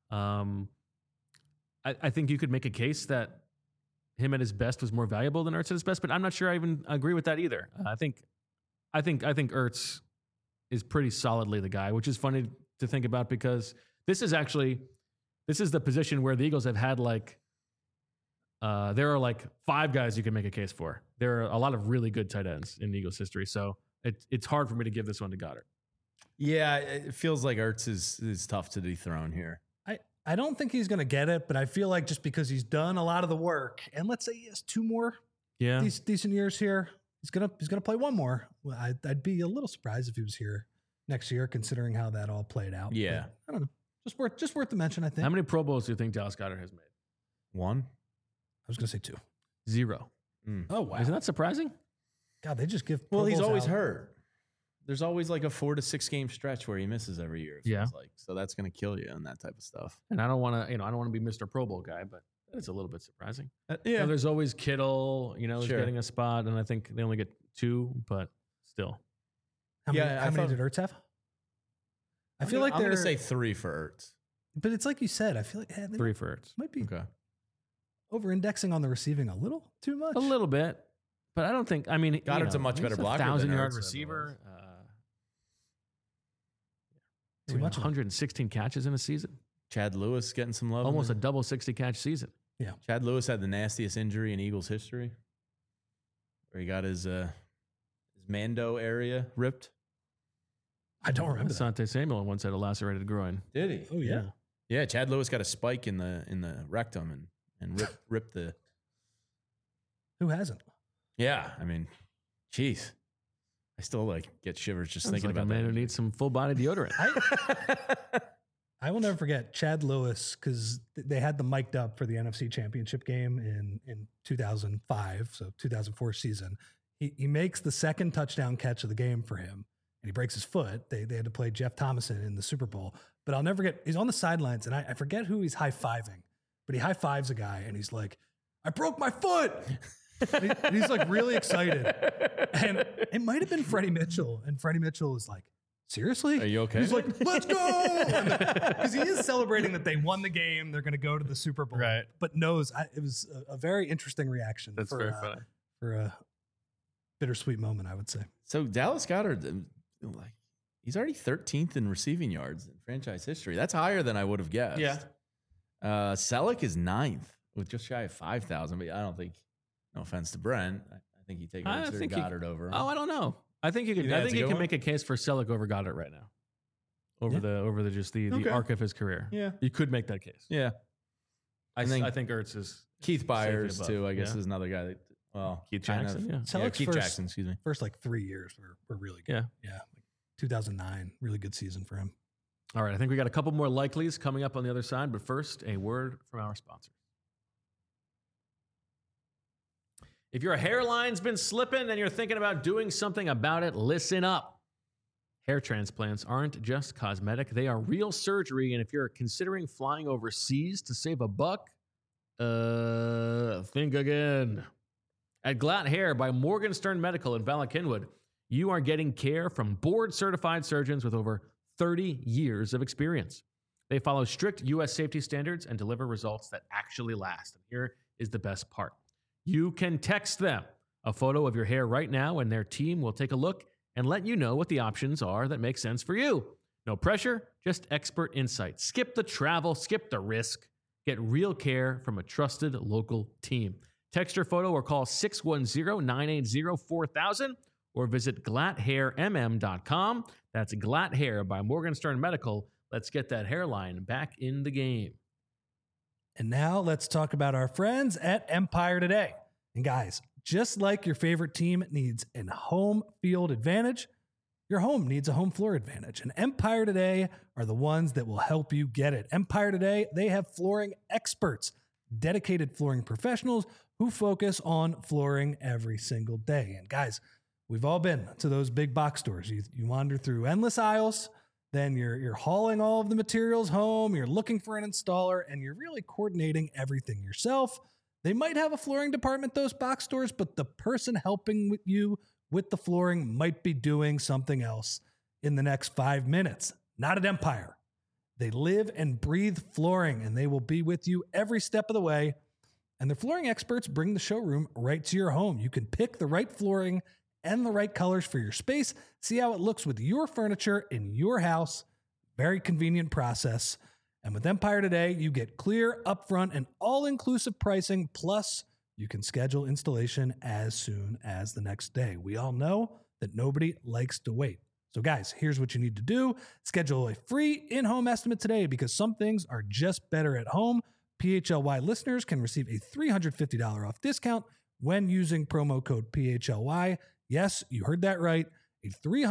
I think you could make a case that him at his best was more valuable than Ertz at his best, but I'm not sure I even agree with that either. I think Ertz is pretty solidly the guy, which is funny to think about because this is the position where the Eagles have had there are like 5 guys you can make a case for. There are a lot of really good tight ends in Eagles history, so it's hard for me to give this one to Goddard. Yeah, it feels like Ertz is tough to dethrone here. I don't think he's going to get it, but I feel like just because he's done a lot of the work, and let's say he has 2 more Yeah, decent years here, he's gonna play 1 more. Well, I'd be a little surprised if he was here next year, considering how that all played out. Yeah. But I don't know. Just worth the mention. I think. how many Pro Bowls do you think Dallas Goedert has made? 1. I was gonna say 2. 0. Oh wow! Isn't that surprising? God, they just give. Well, Pro he's Bowls always out. hurt. There's always like a 4 to 6 game stretch where he misses every year. It feels like. So that's going to kill you and that type of stuff. And I don't want to, I don't want to be Mr. Pro Bowl guy, but it's a little bit surprising. Yeah. There's always Kittle, is Sure. getting a spot, and I think they only get 2, but still. How many, Yeah, I how many thought- did Ertz have? I feel I'm like going they're. to say 3 for Ertz. But it's like you said. I feel like they 3 for Ertz. might be Okay. over-indexing on the receiving a little too much. A little bit, but I don't think. I mean, Goddard's a much better blocker than 1,000-yard Ertz receiver. Too much. 116 catches in a season, Chad Lewis getting some love. almost a double 60 catch season. Chad Lewis had the nastiest injury in Eagles history, where he got his Mando area ripped. I don't remember that. Asante Samuel once had a lacerated groin. Did he? Oh yeah. Yeah, Chad Lewis got a spike in the rectum and ripped the. Who hasn't? Yeah, I mean, jeez, I still get shivers just Sounds thinking like about a man that. who needs some full body deodorant. I will never forget Chad Lewis, because they had the mic'd up for the NFC Championship game in 2005, so 2004 season. He makes the second touchdown catch of the game for him, and he breaks his foot. They had to play Jeff Thomason in the Super Bowl. But I'll never forget, he's on the sidelines, and I forget who he's high-fiving, but he high-fives a guy, and he's like, I broke my foot! and he's like really excited. And it might have been Freddie Mitchell, and Freddie Mitchell is like, seriously? Are you okay? He's like, let's go! Because he is celebrating that they won the game. They're going to go to the Super Bowl. Right. But knows it was a very interesting reaction. That's very funny. For a bittersweet moment, I would say. So Dallas Goedert, like, he's already 13th in receiving yards in franchise history. That's higher than I would have guessed. Yeah. Selleck is 9th with just shy of 5,000. But I don't think, no offense to Brent, I think he'd take Goddard over him. Oh, I don't know. I think you could. I think you can make a case for Selleck over Goddard right now. Over the arc of his career. Yeah. You could make that case. Yeah. I think Ertz is Keith Byers above. too, I guess, is another guy that, Keith Jackson. Yeah. Selleck's Keith Jackson, excuse me. First 3 years were really good. Yeah. Like 2009, really good season for him. All right. I think we got a couple more likelies coming up on the other side, but first, a word from our sponsors. If your hairline's been slipping and you're thinking about doing something about it, listen up. Hair transplants aren't just cosmetic. They are real surgery. And if you're considering flying overseas to save a buck, think again. At Glatt Hair by Morgan Stern Medical in Bala Cynwyd, you are getting care from board-certified surgeons with over 30 years of experience. They follow strict U.S. safety standards and deliver results that actually last. And here is the best part. You can text them a photo of your hair right now, and their team will take a look and let you know what the options are that make sense for you. No pressure, just expert insight. Skip the travel, skip the risk. Get real care from a trusted local team. Text your photo or call 610-980-4000 or visit glatthairmm.com. That's Glatt Hair by Morgan Stern Medical. Let's get that hairline back in the game. And now let's talk about our friends at Empire Today. And guys, just like your favorite team needs a home field advantage, your home needs a home floor advantage. And Empire Today are the ones that will help you get it. Empire Today, they have flooring experts, dedicated flooring professionals who focus on flooring every single day. And guys, we've all been to those big box stores. You wander through endless aisles, then you're hauling all of the materials home, you're looking for an installer, and you're really coordinating everything yourself. They might have a flooring department, those box stores, but the person helping you with the flooring might be doing something else in the next 5 minutes. Not at Empire. They live and breathe flooring, and they will be with you every step of the way. And the flooring experts bring the showroom right to your home. You can pick the right flooring and the right colors for your space. See how it looks with your furniture in your house. Very convenient process. And with Empire Today, you get clear, upfront, and all-inclusive pricing. Plus, you can schedule installation as soon as the next day. We all know that nobody likes to wait. So guys, here's what you need to do. Schedule a free in-home estimate today because some things are just better at home. PHLY listeners can receive a $350 off discount when using promo code PHLY. Yes, you heard that right. A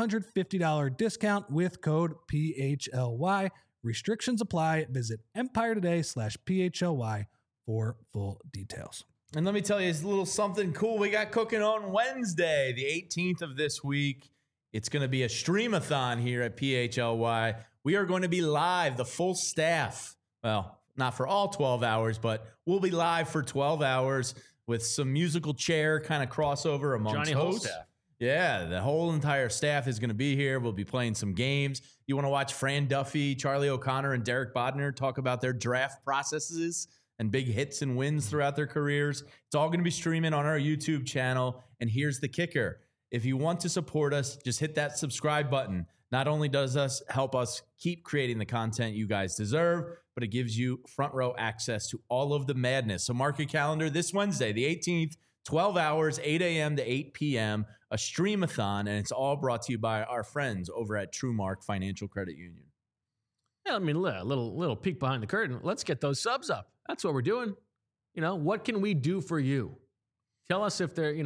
$350 discount with code PHLY. Restrictions apply. Visit EmpireToday.com/PHLY for full details. And let me tell you, it's a little something cool we got cooking on Wednesday, the 18th of this week. It's going to be a streamathon here at PHLY. We are going to be live, the full staff. Well, not for all 12 hours, but we'll be live for 12 hours with some musical chair kind of crossover amongst Johnny hosts. Holstaff. Yeah, the whole entire staff is going to be here. We'll be playing some games. You want to watch Fran Duffy, Charlie O'Connor, and Derek Bodner talk about their draft processes and big hits and wins throughout their careers. It's all going to be streaming on our YouTube channel. And here's the kicker. If you want to support us, just hit that subscribe button. Not only does us help us keep creating the content you guys deserve, but it gives you front row access to all of the madness. So mark your calendar this Wednesday, the 18th, 12 hours, 8 a.m. to 8 p.m., a streamathon, and it's all brought to you by our friends over at TrueMark Financial Credit Union. Yeah, I mean, a little peek behind the curtain. Let's get those subs up. That's what we're doing. You know, what can we do for you? Tell us if they're,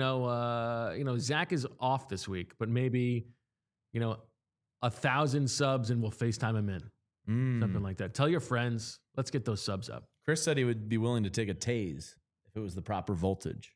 Zach is off this week, but maybe, 1,000 subs and we'll FaceTime him in. something like that. Tell your friends. Let's get those subs up. Chris said he would be willing to take a tase if it was the proper voltage.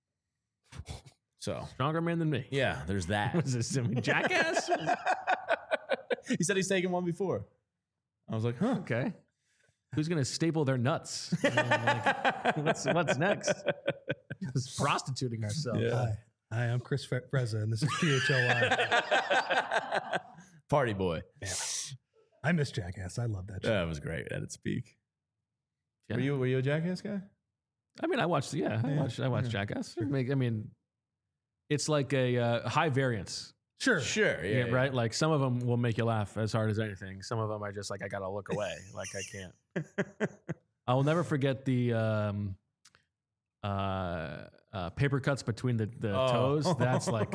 So Stronger man than me. yeah, there's that. What is this? I mean, jackass? He said he's taken one before. I was like, huh. Okay. Who's gonna staple their nuts? I mean, like, what's next? Just prostituting ourselves. Yeah. Hi, I'm Chris Frezza, and this is PHLY. Party boy. Man, I miss Jackass. I love that show. That was great at its peak. Yeah. Were you a Jackass guy? I mean, I watched Jackass. I mean, it's like a high variance. Sure. Sure. Yeah, right. Like some of them will make you laugh as hard as anything. Some of them are just like, I gotta look away. Like I can't. I will never forget the paper cuts between the toes. That's like,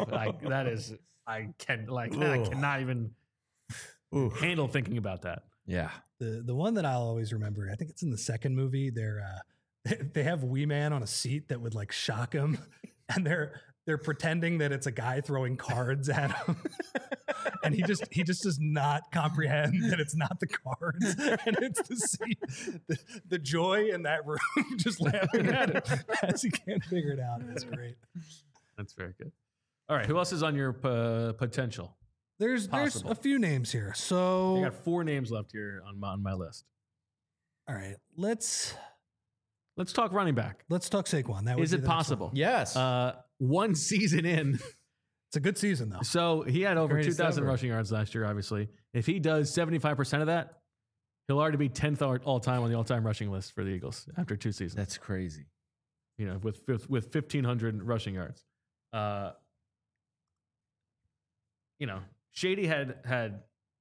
I cannot even handle thinking about that. Yeah. The one that I'll always remember, I think it's in the second movie. They have Wee Man on a seat that would like shock him, and they're pretending that it's a guy throwing cards at him. And he just does not comprehend that it's not the cards and it's the seat. The joy in that room, just laughing at it as he can't figure it out. It's great. That's very good. All right, who else is on your potential? There's a few names here. So I got 4 names left here on my list. All right, let's talk running back. Let's talk Saquon. That Is would it be the next possible? one. Yes. One season in. It's a good season though. So he had over Greatest 2,000 ever. rushing yards last year, obviously. If he does 75% of that, he'll already be 10th all-time on the all-time rushing list for the Eagles after 2 seasons. That's crazy. You know, with 1,500 rushing yards. You know, Shady had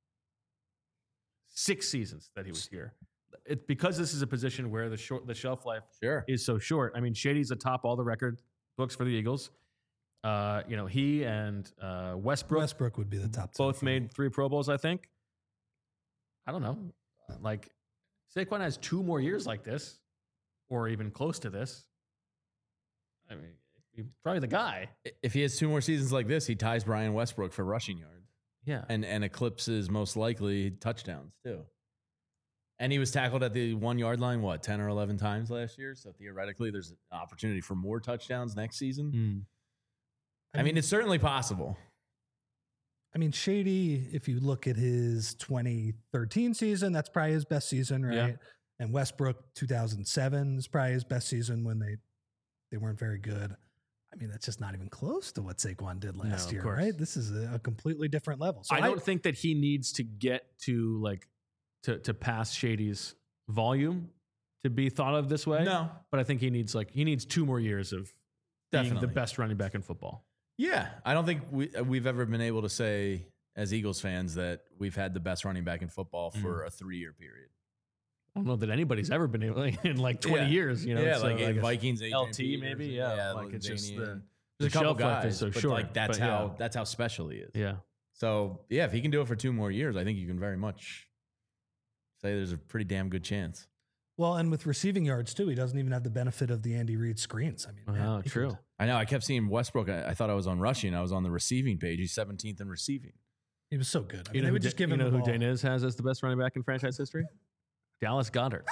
6 seasons that he was here. Because this is a position where the shelf life Sure. is so short. I mean, Shady's atop all the record books for the Eagles. You know, he and Westbrook would be the top. both two for me. made 3 Pro Bowls, I think. I don't know. Like, Saquon has 2 more years like this, or even close to this. I mean, he's probably the guy. If he has 2 more seasons like this, he ties Brian Westbrook for rushing yards Yeah. and eclipses most likely touchdowns too. And he was tackled at the 1 yard line, 10 or 11 times last year. So theoretically, there's an opportunity for more touchdowns next season. I mean, it's certainly possible. I mean, Shady, if you look at his 2013 season, that's probably his best season, right? Yeah. And Westbrook 2007 is probably his best season when they weren't very good. I mean, that's just not even close to what Saquon did last of year, course. right? This is a completely different level. So I don't think that he needs to get to like to pass Shady's volume to be thought of this way. No. But I think he needs 2 more years of being Definitely. the best running back in football. Yeah. I don't think we've ever been able to say as Eagles fans that we've had the best running back in football for a 3-year period. I don't know that anybody's ever been able in like 20 Yeah. years, you know. Yeah, so like I guess Vikings, Adrian LT Peters, maybe, yeah. Like it's just Lanzini, the there's a couple shelf life guys, is so but short. like that's but yeah. that's how special he is. Yeah. So yeah, if he can do it for 2 more years, I think you can very much say there's a pretty damn good chance. Well, and with receiving yards too, he doesn't even have the benefit of the Andy Reid screens. I mean, man, he True. could- I know. I kept seeing Westbrook. I thought I was on rushing. I was on the receiving page. He's 17th in receiving. He was so good. I mean, You know they who would just give him you know the who ball. Dainez has as the best running back in franchise history? Dallas Goddard.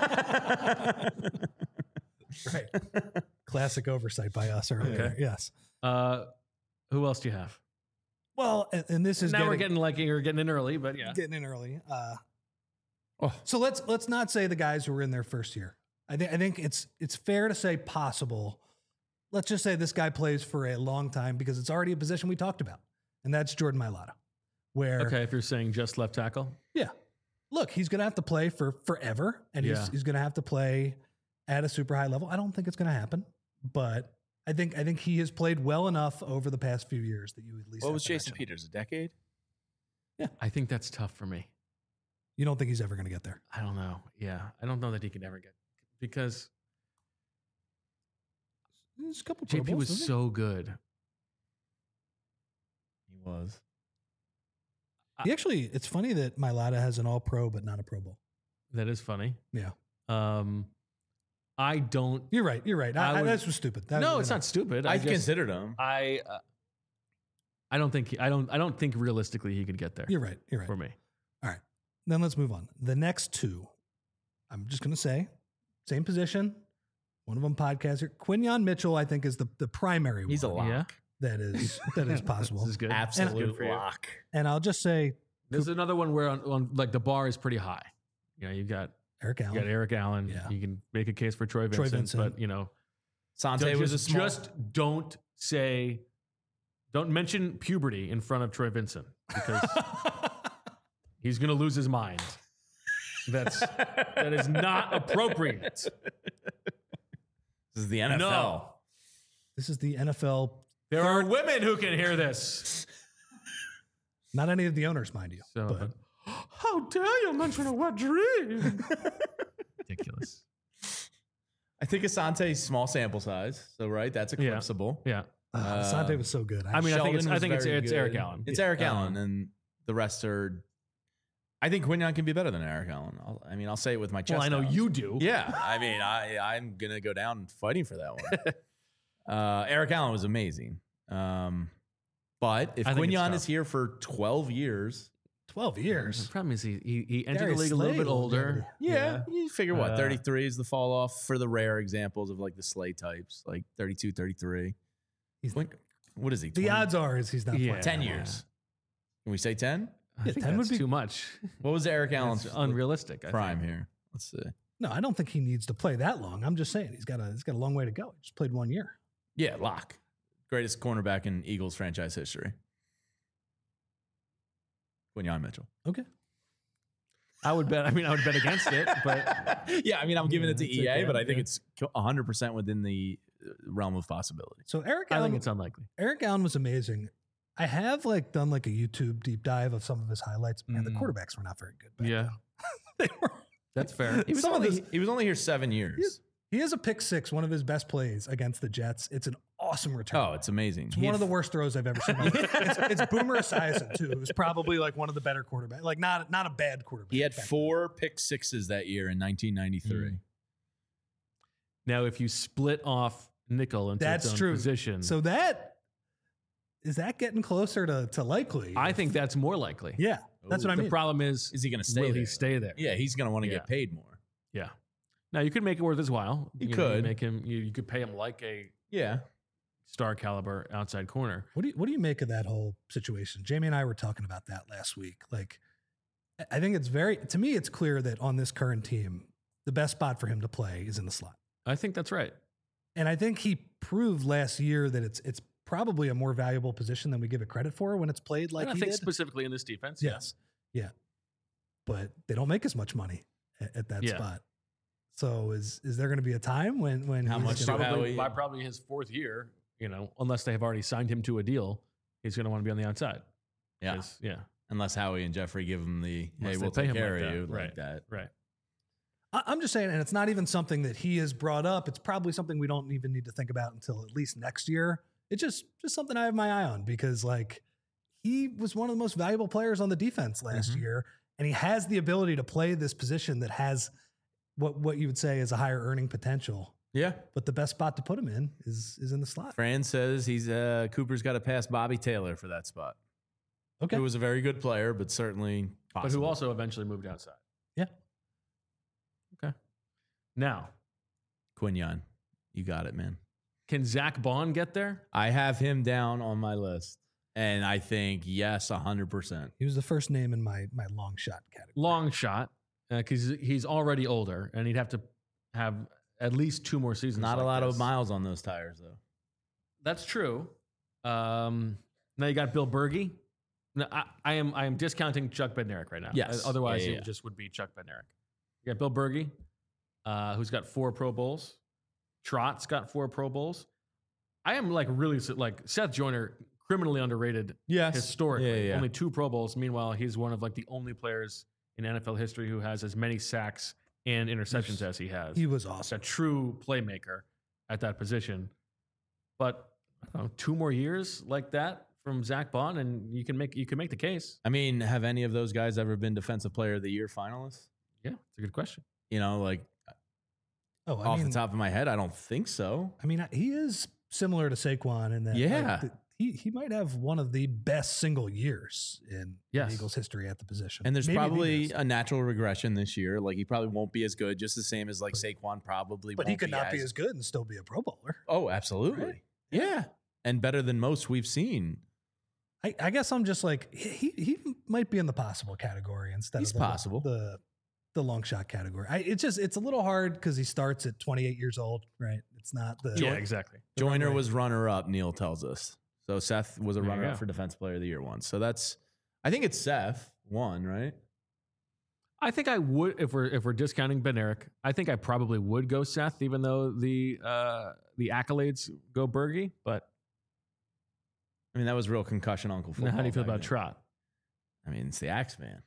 Right. Classic oversight by us earlier. Okay. Yes. Who else do you have? Well, and this is Now we're getting in early, but yeah. getting in early. Oh. So let's not say the guys who were in their first year. I think it's fair to say possible. Let's just say this guy plays for a long time because it's already a position we talked about, and that's Jordan Mailata. Where Okay, if you're saying just left tackle. yeah, look, he's going to have to play for forever, and Yeah. he's going to have to play at a super high level. I don't think it's going to happen, but I think he has played well enough over the past few years that you at least. What have was to Jason mention him. Peters? A decade? I think that's tough for me. You don't think he's ever going to get there? I don't know. Yeah, I don't know that he can ever get because There's a couple. Pro JP Bowls, was doesn't he? so good. He was. He actually, it's funny that Mailata has an All-Pro but not a Pro Bowl. That is funny. Yeah, I don't. you're right. You're right. I would- That was stupid. That, No, you it's know. not stupid. I I just, considered him. I don't think realistically he could get there You're right. You're right. for me. Then let's move on. The next two, I'm just going to say, same position. One of them podcaster. Quinyon Mitchell, I think, is the primary He's a one lock. that is possible. This is good. Absolute for you. lock. And I'll just say This is another one where on like the bar is pretty high. You know, you got Eric Allen. Eric Allen. Yeah. You can make a case for Troy Vincent, but you know, Sante was a small. just don't mention puberty in front of Troy Vincent because he's going to lose his mind. That is not appropriate. This is the NFL. No. This is the NFL. There are women who can hear this. Not any of the owners, mind you. So, but how dare you mention a wet dream? Ridiculous. I think Asante's small sample size. So, right, that's eclipsable. Yeah. Asante was so good. I mean, Sheldon I think was it's very Eric good. Allen. It's Eric Allen, and the rest are. I think Quinyon can be better than Eric Allen. I'll say it with my chest. Well, I know out. you do. Yeah, I mean, I'm gonna go down fighting for that one. Eric Allen was amazing, but if I think it's Quinyon tough. is here for 12 years, 12 The years. problem is he entered Darius the league a little Slay bit older. yeah, you figure what 33 is the fall off for the rare examples of like the Slay types, like 32, 33. He's- What is he? The 20? odds are is he's not Yeah. playing. 10 years. Can we say 10? I Yeah, think 10 would that's be- too much. What was Eric Allen's It's unrealistic. I prime think. here? Let's see. No, I don't think he needs to play that long. I'm just saying he's got a long way to go. He just played 1 year. Yeah, lock. Greatest cornerback in Eagles franchise history. Quinyon Mitchell. Okay. I would bet against it, but yeah, I mean, I'm giving it to it's EA, okay, but I think yeah. it's 100% within the realm of possibility. So Eric I Allen, think it's unlikely. Eric Allen was amazing. I have done a YouTube deep dive of some of his highlights. Man, the quarterbacks were not very good. back Yeah, then. They were. that's fair. He was only here 7 years. He has a pick six, one of his best plays against the Jets. It's an awesome return. Oh, it's amazing. It's one of the worst throws I've ever seen. It's Boomer Esiason too. It was probably like one of the better quarterbacks. Like not a bad quarterback. He had back 4 pick sixes that year in 1993. Now, if you split off nickel into That's its own true. position, then. So is that getting closer to likely? I think that's more likely. Yeah, that's what I The mean. problem is Is he going to stay will there? he stay there? Yeah, he's going to want to Yeah. get paid more. Yeah. Now you could make it worth his while. You know, could. make him. You could pay him like a Yeah. star caliber outside corner. What do you make of that whole situation? Jamie and I were talking about that last week. Like, I think to me, it's clear that on this current team, the best spot for him to play is in the slot. I think that's right. And I think he proved last year that it's probably a more valuable position than we give it credit for when it's played like And I he think did. specifically in this defense. Yes. Yeah. But they don't make as much money at that Yeah. spot. So is there going to be a time when How he's much gonna- do Probably Howie- by probably his 4th year, unless they have already signed him to a deal, he's going to want to be on the outside. Yeah. 'Cause- Yeah. Unless Howie and Jeffrey give him the, hey, Unless they we'll pay take him care like of that. you Right. like that. Right. I'm just saying, and it's not even something that he has brought up. It's probably something we don't even need to think about until at least next year. It's just something I have my eye on because he was one of the most valuable players on the defense last Mhm. year, and he has the ability to play this position that has what you would say is a higher earning potential. Yeah. But the best spot to put him in is in the slot. Fran says Cooper's got to pass Bobby Taylor for that spot. Okay. Who was a very good player, but certainly But possible. who also eventually moved outside. Yeah. Okay. Now, Quinyon. You got it, man. can Zach Bond get there? I have him down on my list. And I think, yes, 100%. He was the first name in my long shot category. Long shot, because he's already older, and he'd have to have at least 2 more seasons. Not a like lot this. of miles on those tires, though. That's true. Now you got Bill Berge. No, I am discounting Chuck Bednarik right now. Yes. Otherwise, Yeah. it just would be Chuck Bednarik. You got Bill Berge, who's got 4 Pro Bowls. Trott's got 4 Pro Bowls. I am really Seth Joyner, criminally underrated Yes. historically. Yeah. Only 2 Pro Bowls. Meanwhile, he's one of the only players in NFL history who has as many sacks and interceptions as he has. He was He's awesome. a true playmaker at that position. But I don't know, 2 more years like that from Zach Bond, and you can make the case. I mean, have any of those guys ever been Defensive Player of the Year finalists? Yeah, it's a good question. Off the top of my head, I don't think so. I mean, he is similar to Saquon in that Yeah. he might have one of the best single years in Yes. the Eagles' history at the position. And there's Maybe the probably best. a natural regression this year. Like he probably won't be as good, just the same as like Saquon probably. But won't he could not be as good and still be a Pro Bowler. Oh, absolutely. Right? Yeah, and better than most we've seen. I guess I'm just like he might be in the possible category instead He's of possible. the long shot category. It's a little hard because he starts at 28 years old, right? It's not the Yeah, exactly. the Joyner runway. was runner up. Neil tells us. So Seth was a There you runner go. up for Defense Player of the Year once. So I think it's Seth one, right? I think I would if we're discounting Ben Eric. I think I probably would go Seth, even though the accolades go Bergie. But I mean, that was real concussion Uncle now football. how do you feel back about then. Trot? I mean, it's the Axeman.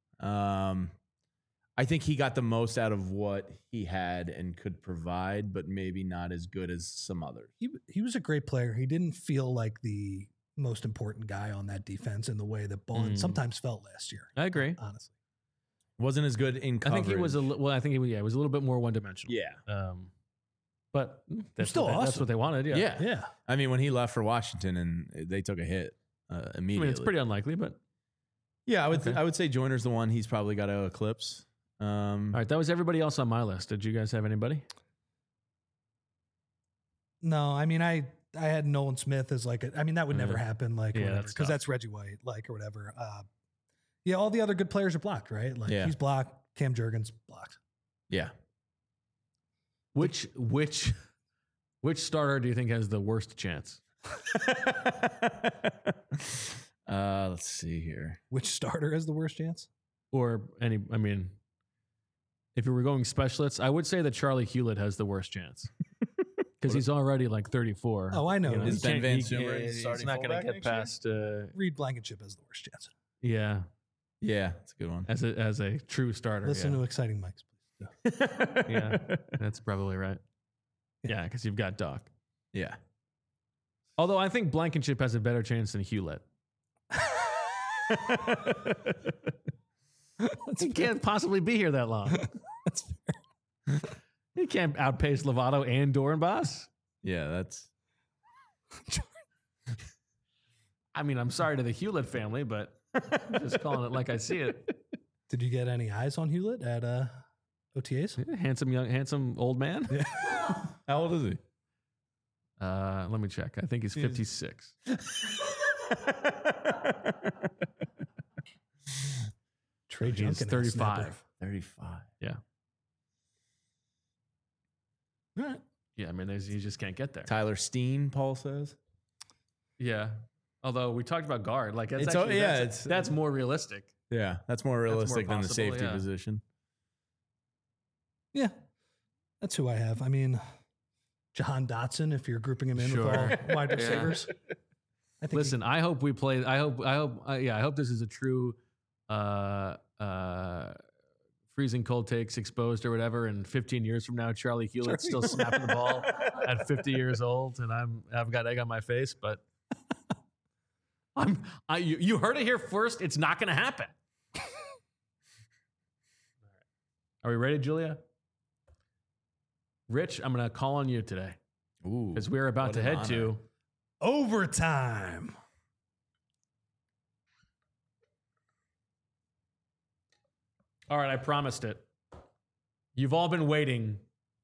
I think he got the most out of what he had and could provide, but maybe not as good as some others. He was a great player. He didn't feel like the most important guy on that defense in the way that Bond sometimes felt last year. I agree. Honestly, Wasn't as good in I coverage. think he was I think he was a little bit more one dimensional. Yeah. But that's still That's awesome. what they wanted. Yeah. Yeah. yeah. I mean, when he left for Washington and they took a hit I immediately. mean, it's pretty unlikely, but Yeah, Okay. I would say Joyner's the one he's probably got to eclipse. all right. That was everybody else on my list. Did you guys have anybody? No, I mean, I had Nolan Smith as like that would never Yeah. happen, like Yeah, whatever, that's because tough. that's Reggie White, like or whatever. Yeah, all the other good players are blocked, right? Like Yeah. he's blocked. Cam Jurgens blocked. Yeah. Which starter do you think has the worst chance? Let's see here. Which starter has the worst chance? Or any? I mean, if you were going specialists, I would say that Charlie Hewlett has the worst chance because he's already like 34. Oh, I know. You Is he Ben can't- Van he- Summer he's starting not going to fullback get next year? past. Reed Blankenship has the worst chance. Yeah, Yeah, that's a good one. as a true starter. Listen to Exciting Mics, please. yeah, that's probably right. Yeah, because you've got Doc. Yeah. Although I think Blankenship has a better chance than Hewlett. He can't possibly be here that long. That's fair. He can't outpace Lovato and Dorenbos. Yeah, that's I mean, I'm sorry to the Hewlett family, but I'm just calling it like I see it. Did you get any eyes on Hewlett at OTAs? Handsome old man. Yeah. how old is he? Let me check. I think he's 56. Trey He's Junkin. 35. 35. Yeah. All right. Yeah, I mean, you just can't get there. Tyler Steen, Paul says. Yeah. Although we talked about guard, like that's It's- actually, yeah, that's more realistic. Yeah, that's more realistic than the possible, safety yeah. position. Yeah. That's who I have. I mean, Jahan Dotson, if you're grouping him in Sure. with all wide Yeah. receivers. I think Listen, I hope we play. I hope this is a true freezing cold takes exposed or whatever. And 15 years from now, Charlie Hewlett's still snapping the ball at 50 years old, and I've got egg on my face. But you heard it here first. It's not going to happen. Are we ready, Julia? Rich, I'm going to call on you today Ooh. because we're about what to an head honor. to overtime. All right, I promised it. You've all been waiting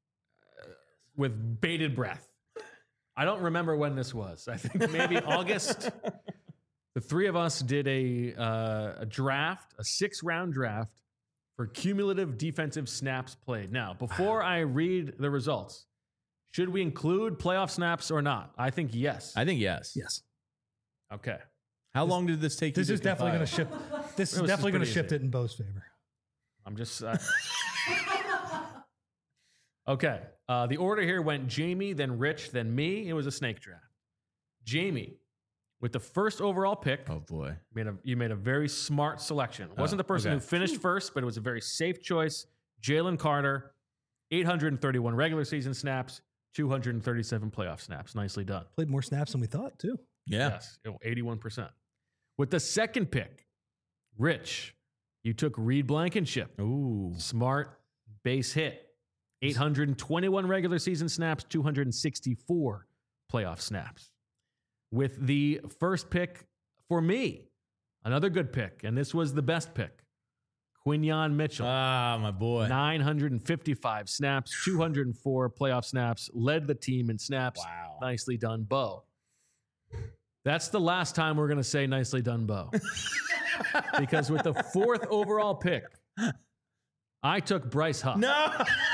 with bated breath. I don't remember when this was. I think maybe August. The three of us did a draft, a 6-round draft for cumulative defensive snaps played. Now, before I read the results, should we include playoff snaps or not? I think yes. I think yes. Yes. Okay. How long did this take This you is to definitely going to compile? shift. This is It was definitely going to pretty shift easy. it in Bo's favor. I'm just. Okay. The order here went Jamie, then Rich, then me. It was a snake draft. Jamie, with the first overall pick, Oh boy. you made a very smart selection. It wasn't the person okay. who finished first, but it was a very safe choice. Jalen Carter, 831 regular season snaps, 237 playoff snaps. Nicely done. Played more snaps than we thought, too. Yeah. Yes, 81%. With the second pick, Rich, you took Reed Blankenship. Ooh. Smart base hit. 821 regular season snaps, 264 playoff snaps. with the first pick for me. Another good pick, and this was the best pick. Quinyon Mitchell. Ah, my boy. 955 snaps, 204 playoff snaps, led the team in snaps. Wow. Nicely done, Bo. That's the last time we're going to say nicely done, Bo. Because with the 4th overall pick, I took Bryce Huff. No.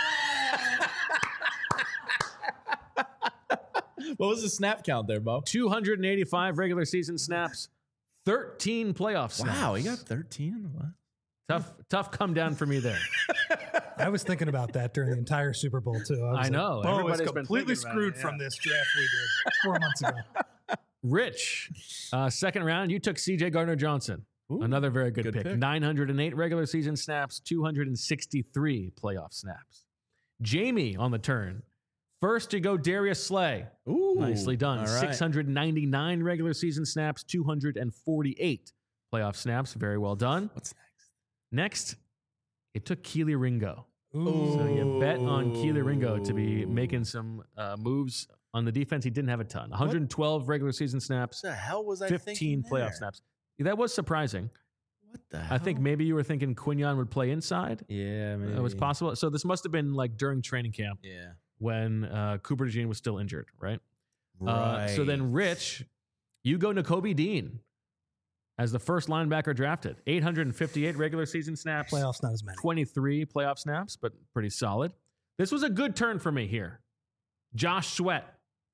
What was the snap count there, Bo? 285 regular season snaps, 13 playoff snaps. Wow, he got 13 in the last. Tough come down for me there. I was thinking about that during the entire Super Bowl too. I know. Bo is Everybody's been completely thinking about screwed it, from this draft we did 4 months ago. Rich, second round, you took C.J. Gardner-Johnson. Ooh, Another very good pick. pick. 908 regular season snaps, 263 playoff snaps. Jamie on the turn. First, you go Darius Slay. Ooh, Nicely done. all right. 699 regular season snaps, 248 playoff snaps. Very well done. What's next? Next, it took Keely Ringo. Ooh. So you bet on Keely Ringo to be making some moves on the defense. He didn't have a ton. 112 regular season snaps, What the hell was I 15 thinking playoff there? snaps. That was surprising. What the hell? I think maybe you were thinking Quinyon would play inside. Yeah, maybe. It was possible. So this must have been like during training camp Yeah. when Cooper DeJean was still injured, right? Right. So then, Rich, you go Nakobe Dean as the first linebacker drafted. 858 regular season snaps, Playoffs not as many. 23 playoff snaps, but pretty solid. This was a good turn for me here. Josh Sweat,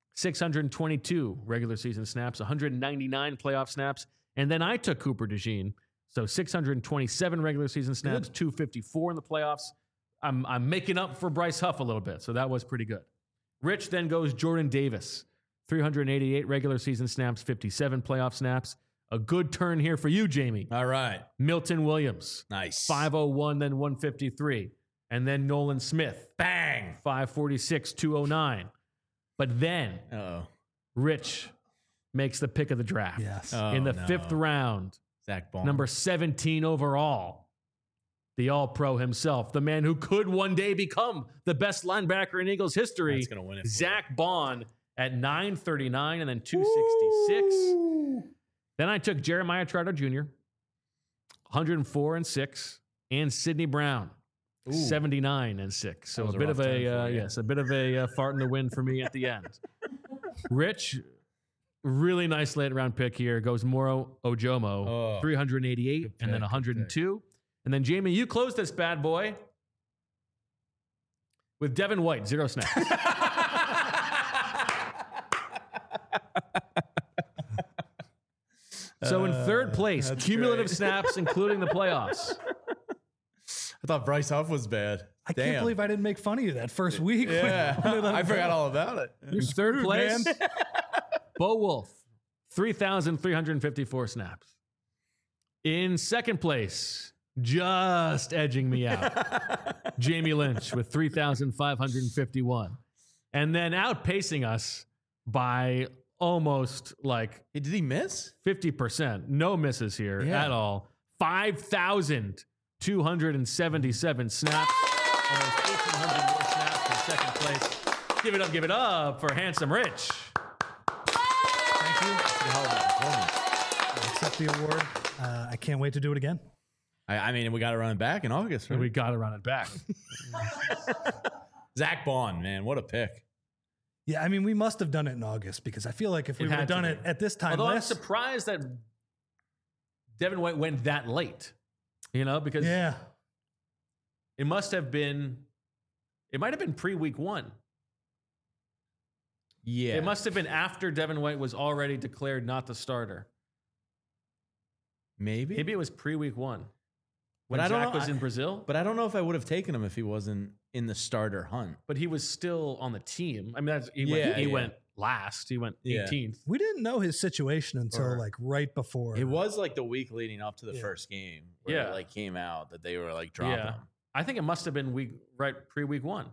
622 regular season snaps, 199 playoff snaps. And then I took Cooper DeJean. So 627 regular season snaps, 254 in the playoffs. I'm making up for Bryce Huff a little bit. So that was pretty good. Rich then goes Jordan Davis, 388 regular season snaps, 57 playoff snaps. A good turn here for you, Jamie. All right. Milton Williams, Nice. 501, then 153. And then Nolan Smith, Bang. 546, 209. But then Uh-oh. Rich makes the pick of the draft. Yes. Oh, In the no. 5th round, Zach Bond. number 17 overall, the All-Pro himself, the man who could one day become the best linebacker in Eagles history, That's gonna win it for Zach Bond at 939 and then 266. Then I took Jeremiah Trotter Jr., 104 and 6, and Sidney Brown, 79 and 6. So That was a a bit rough of turn a for you. yes, a bit of a fart in the wind for me at the end. Rich, really nice late round pick here. Goes Moro Ojomo, Oh, 388 good and then pick, good 102. And then Jamie, you close this bad boy with Devin White, 0 snaps. So in third place, that's cumulative great. snaps, including the playoffs. I thought Bryce Huff was bad. I can't believe I didn't make fun of you that first week. when Yeah. you let I him forgot go. all about it. In third place, Bo Wolf, 3,354 snaps. In second place, just edging me out, Jamie Lynch with 3,551. And then outpacing us by almost like Hey, did he miss? 50%. No misses here Yeah. at all. 5,277 snaps. Almost 1,800 more snaps in second place. Give it up for Handsome Rich. Thank you. I accept the award. I can't wait to do it again. I mean, we got to run it back in August, right? We got to run it back. Zach Bond, man, what a pick. Yeah, I mean, we must have done it in August because I feel like if we It would have had to done be. it at this time Although I'm last, surprised that Devin White went that late, because yeah, it might have been pre-week 1. Yeah. It must have been after Devin White was already declared not the starter. Maybe. Maybe it was pre-week 1 when But I don't Zach know. was in Brazil, But I don't know if I would have taken him if he wasn't in the starter hunt. but he was still on the team. I mean, he Yeah. went last. He went Yeah. 18th. we didn't know his situation until Or- like right before. It was like the week leading up to the Yeah. first game where Yeah. it like came out that they were like dropping Yeah. him. I think it must have been pre-week 1.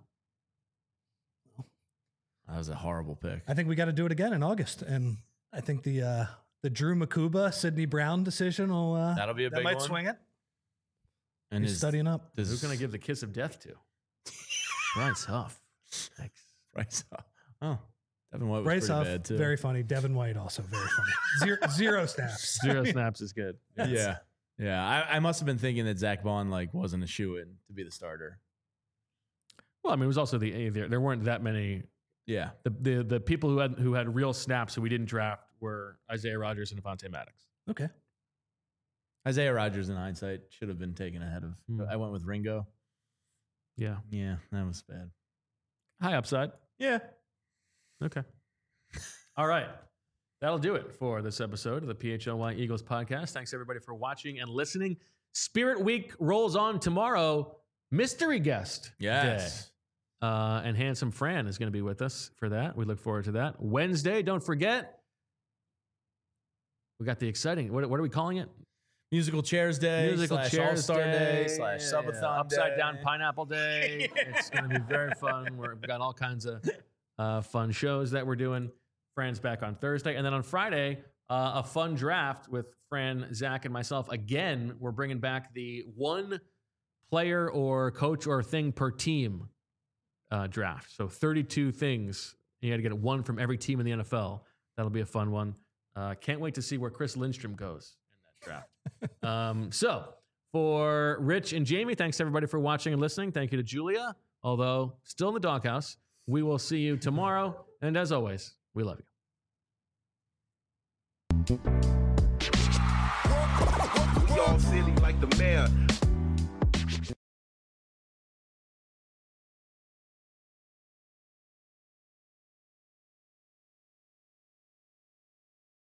That was a horrible pick. I think we got to do it again in August, and I think the Drew Makuba Sidney Brown decision will That'll be a that big might one. swing it. And He's studying up. does Who's going to give the kiss of death to? Bryce Huff. Thanks. Bryce Huff. Oh, Devin White was Bryce pretty Huff, bad too. very funny. Devin White also very funny. Zero snaps. 0 snaps is good. Yeah. I must have been thinking that Zach Bond wasn't a shoo-in to be the starter. Well, I mean, it was also there weren't that many. Yeah. The people who had real snaps who we didn't draft were Isaiah Rodgers and Avonte Maddox. Okay. Isaiah Rodgers, in hindsight, should have been taken ahead of. I went with Ringo. Yeah. Yeah, that was bad. High upside. Yeah. Okay. All right. That'll do it for this episode of the PHLY Eagles podcast. Thanks, everybody, for watching and listening. Spirit Week rolls on tomorrow. Mystery guest Yes. day. And Handsome Fran is going to be with us for that. We look forward to that. Wednesday, don't forget, we got the exciting, what are we calling it? Musical Chairs Day. Musical Chairs All-Star Day. / Yeah, Subathon Day. Upside Down Pineapple Day. It's going to be very fun. We've got all kinds of fun shows that we're doing. Fran's back on Thursday. And then on Friday, a fun draft with Fran, Zach, and myself. Again, we're bringing back the one player or coach or thing per team draft. So 32 things. You got to get one from every team in the NFL. That'll be a fun one. Can't wait to see where Chris Lindstrom goes in that draft. So for Rich and Jamie, thanks everybody for watching and listening. Thank you to Julia, although still in the doghouse. We will see you tomorrow. And as always, we love you. We all silly like the mayor.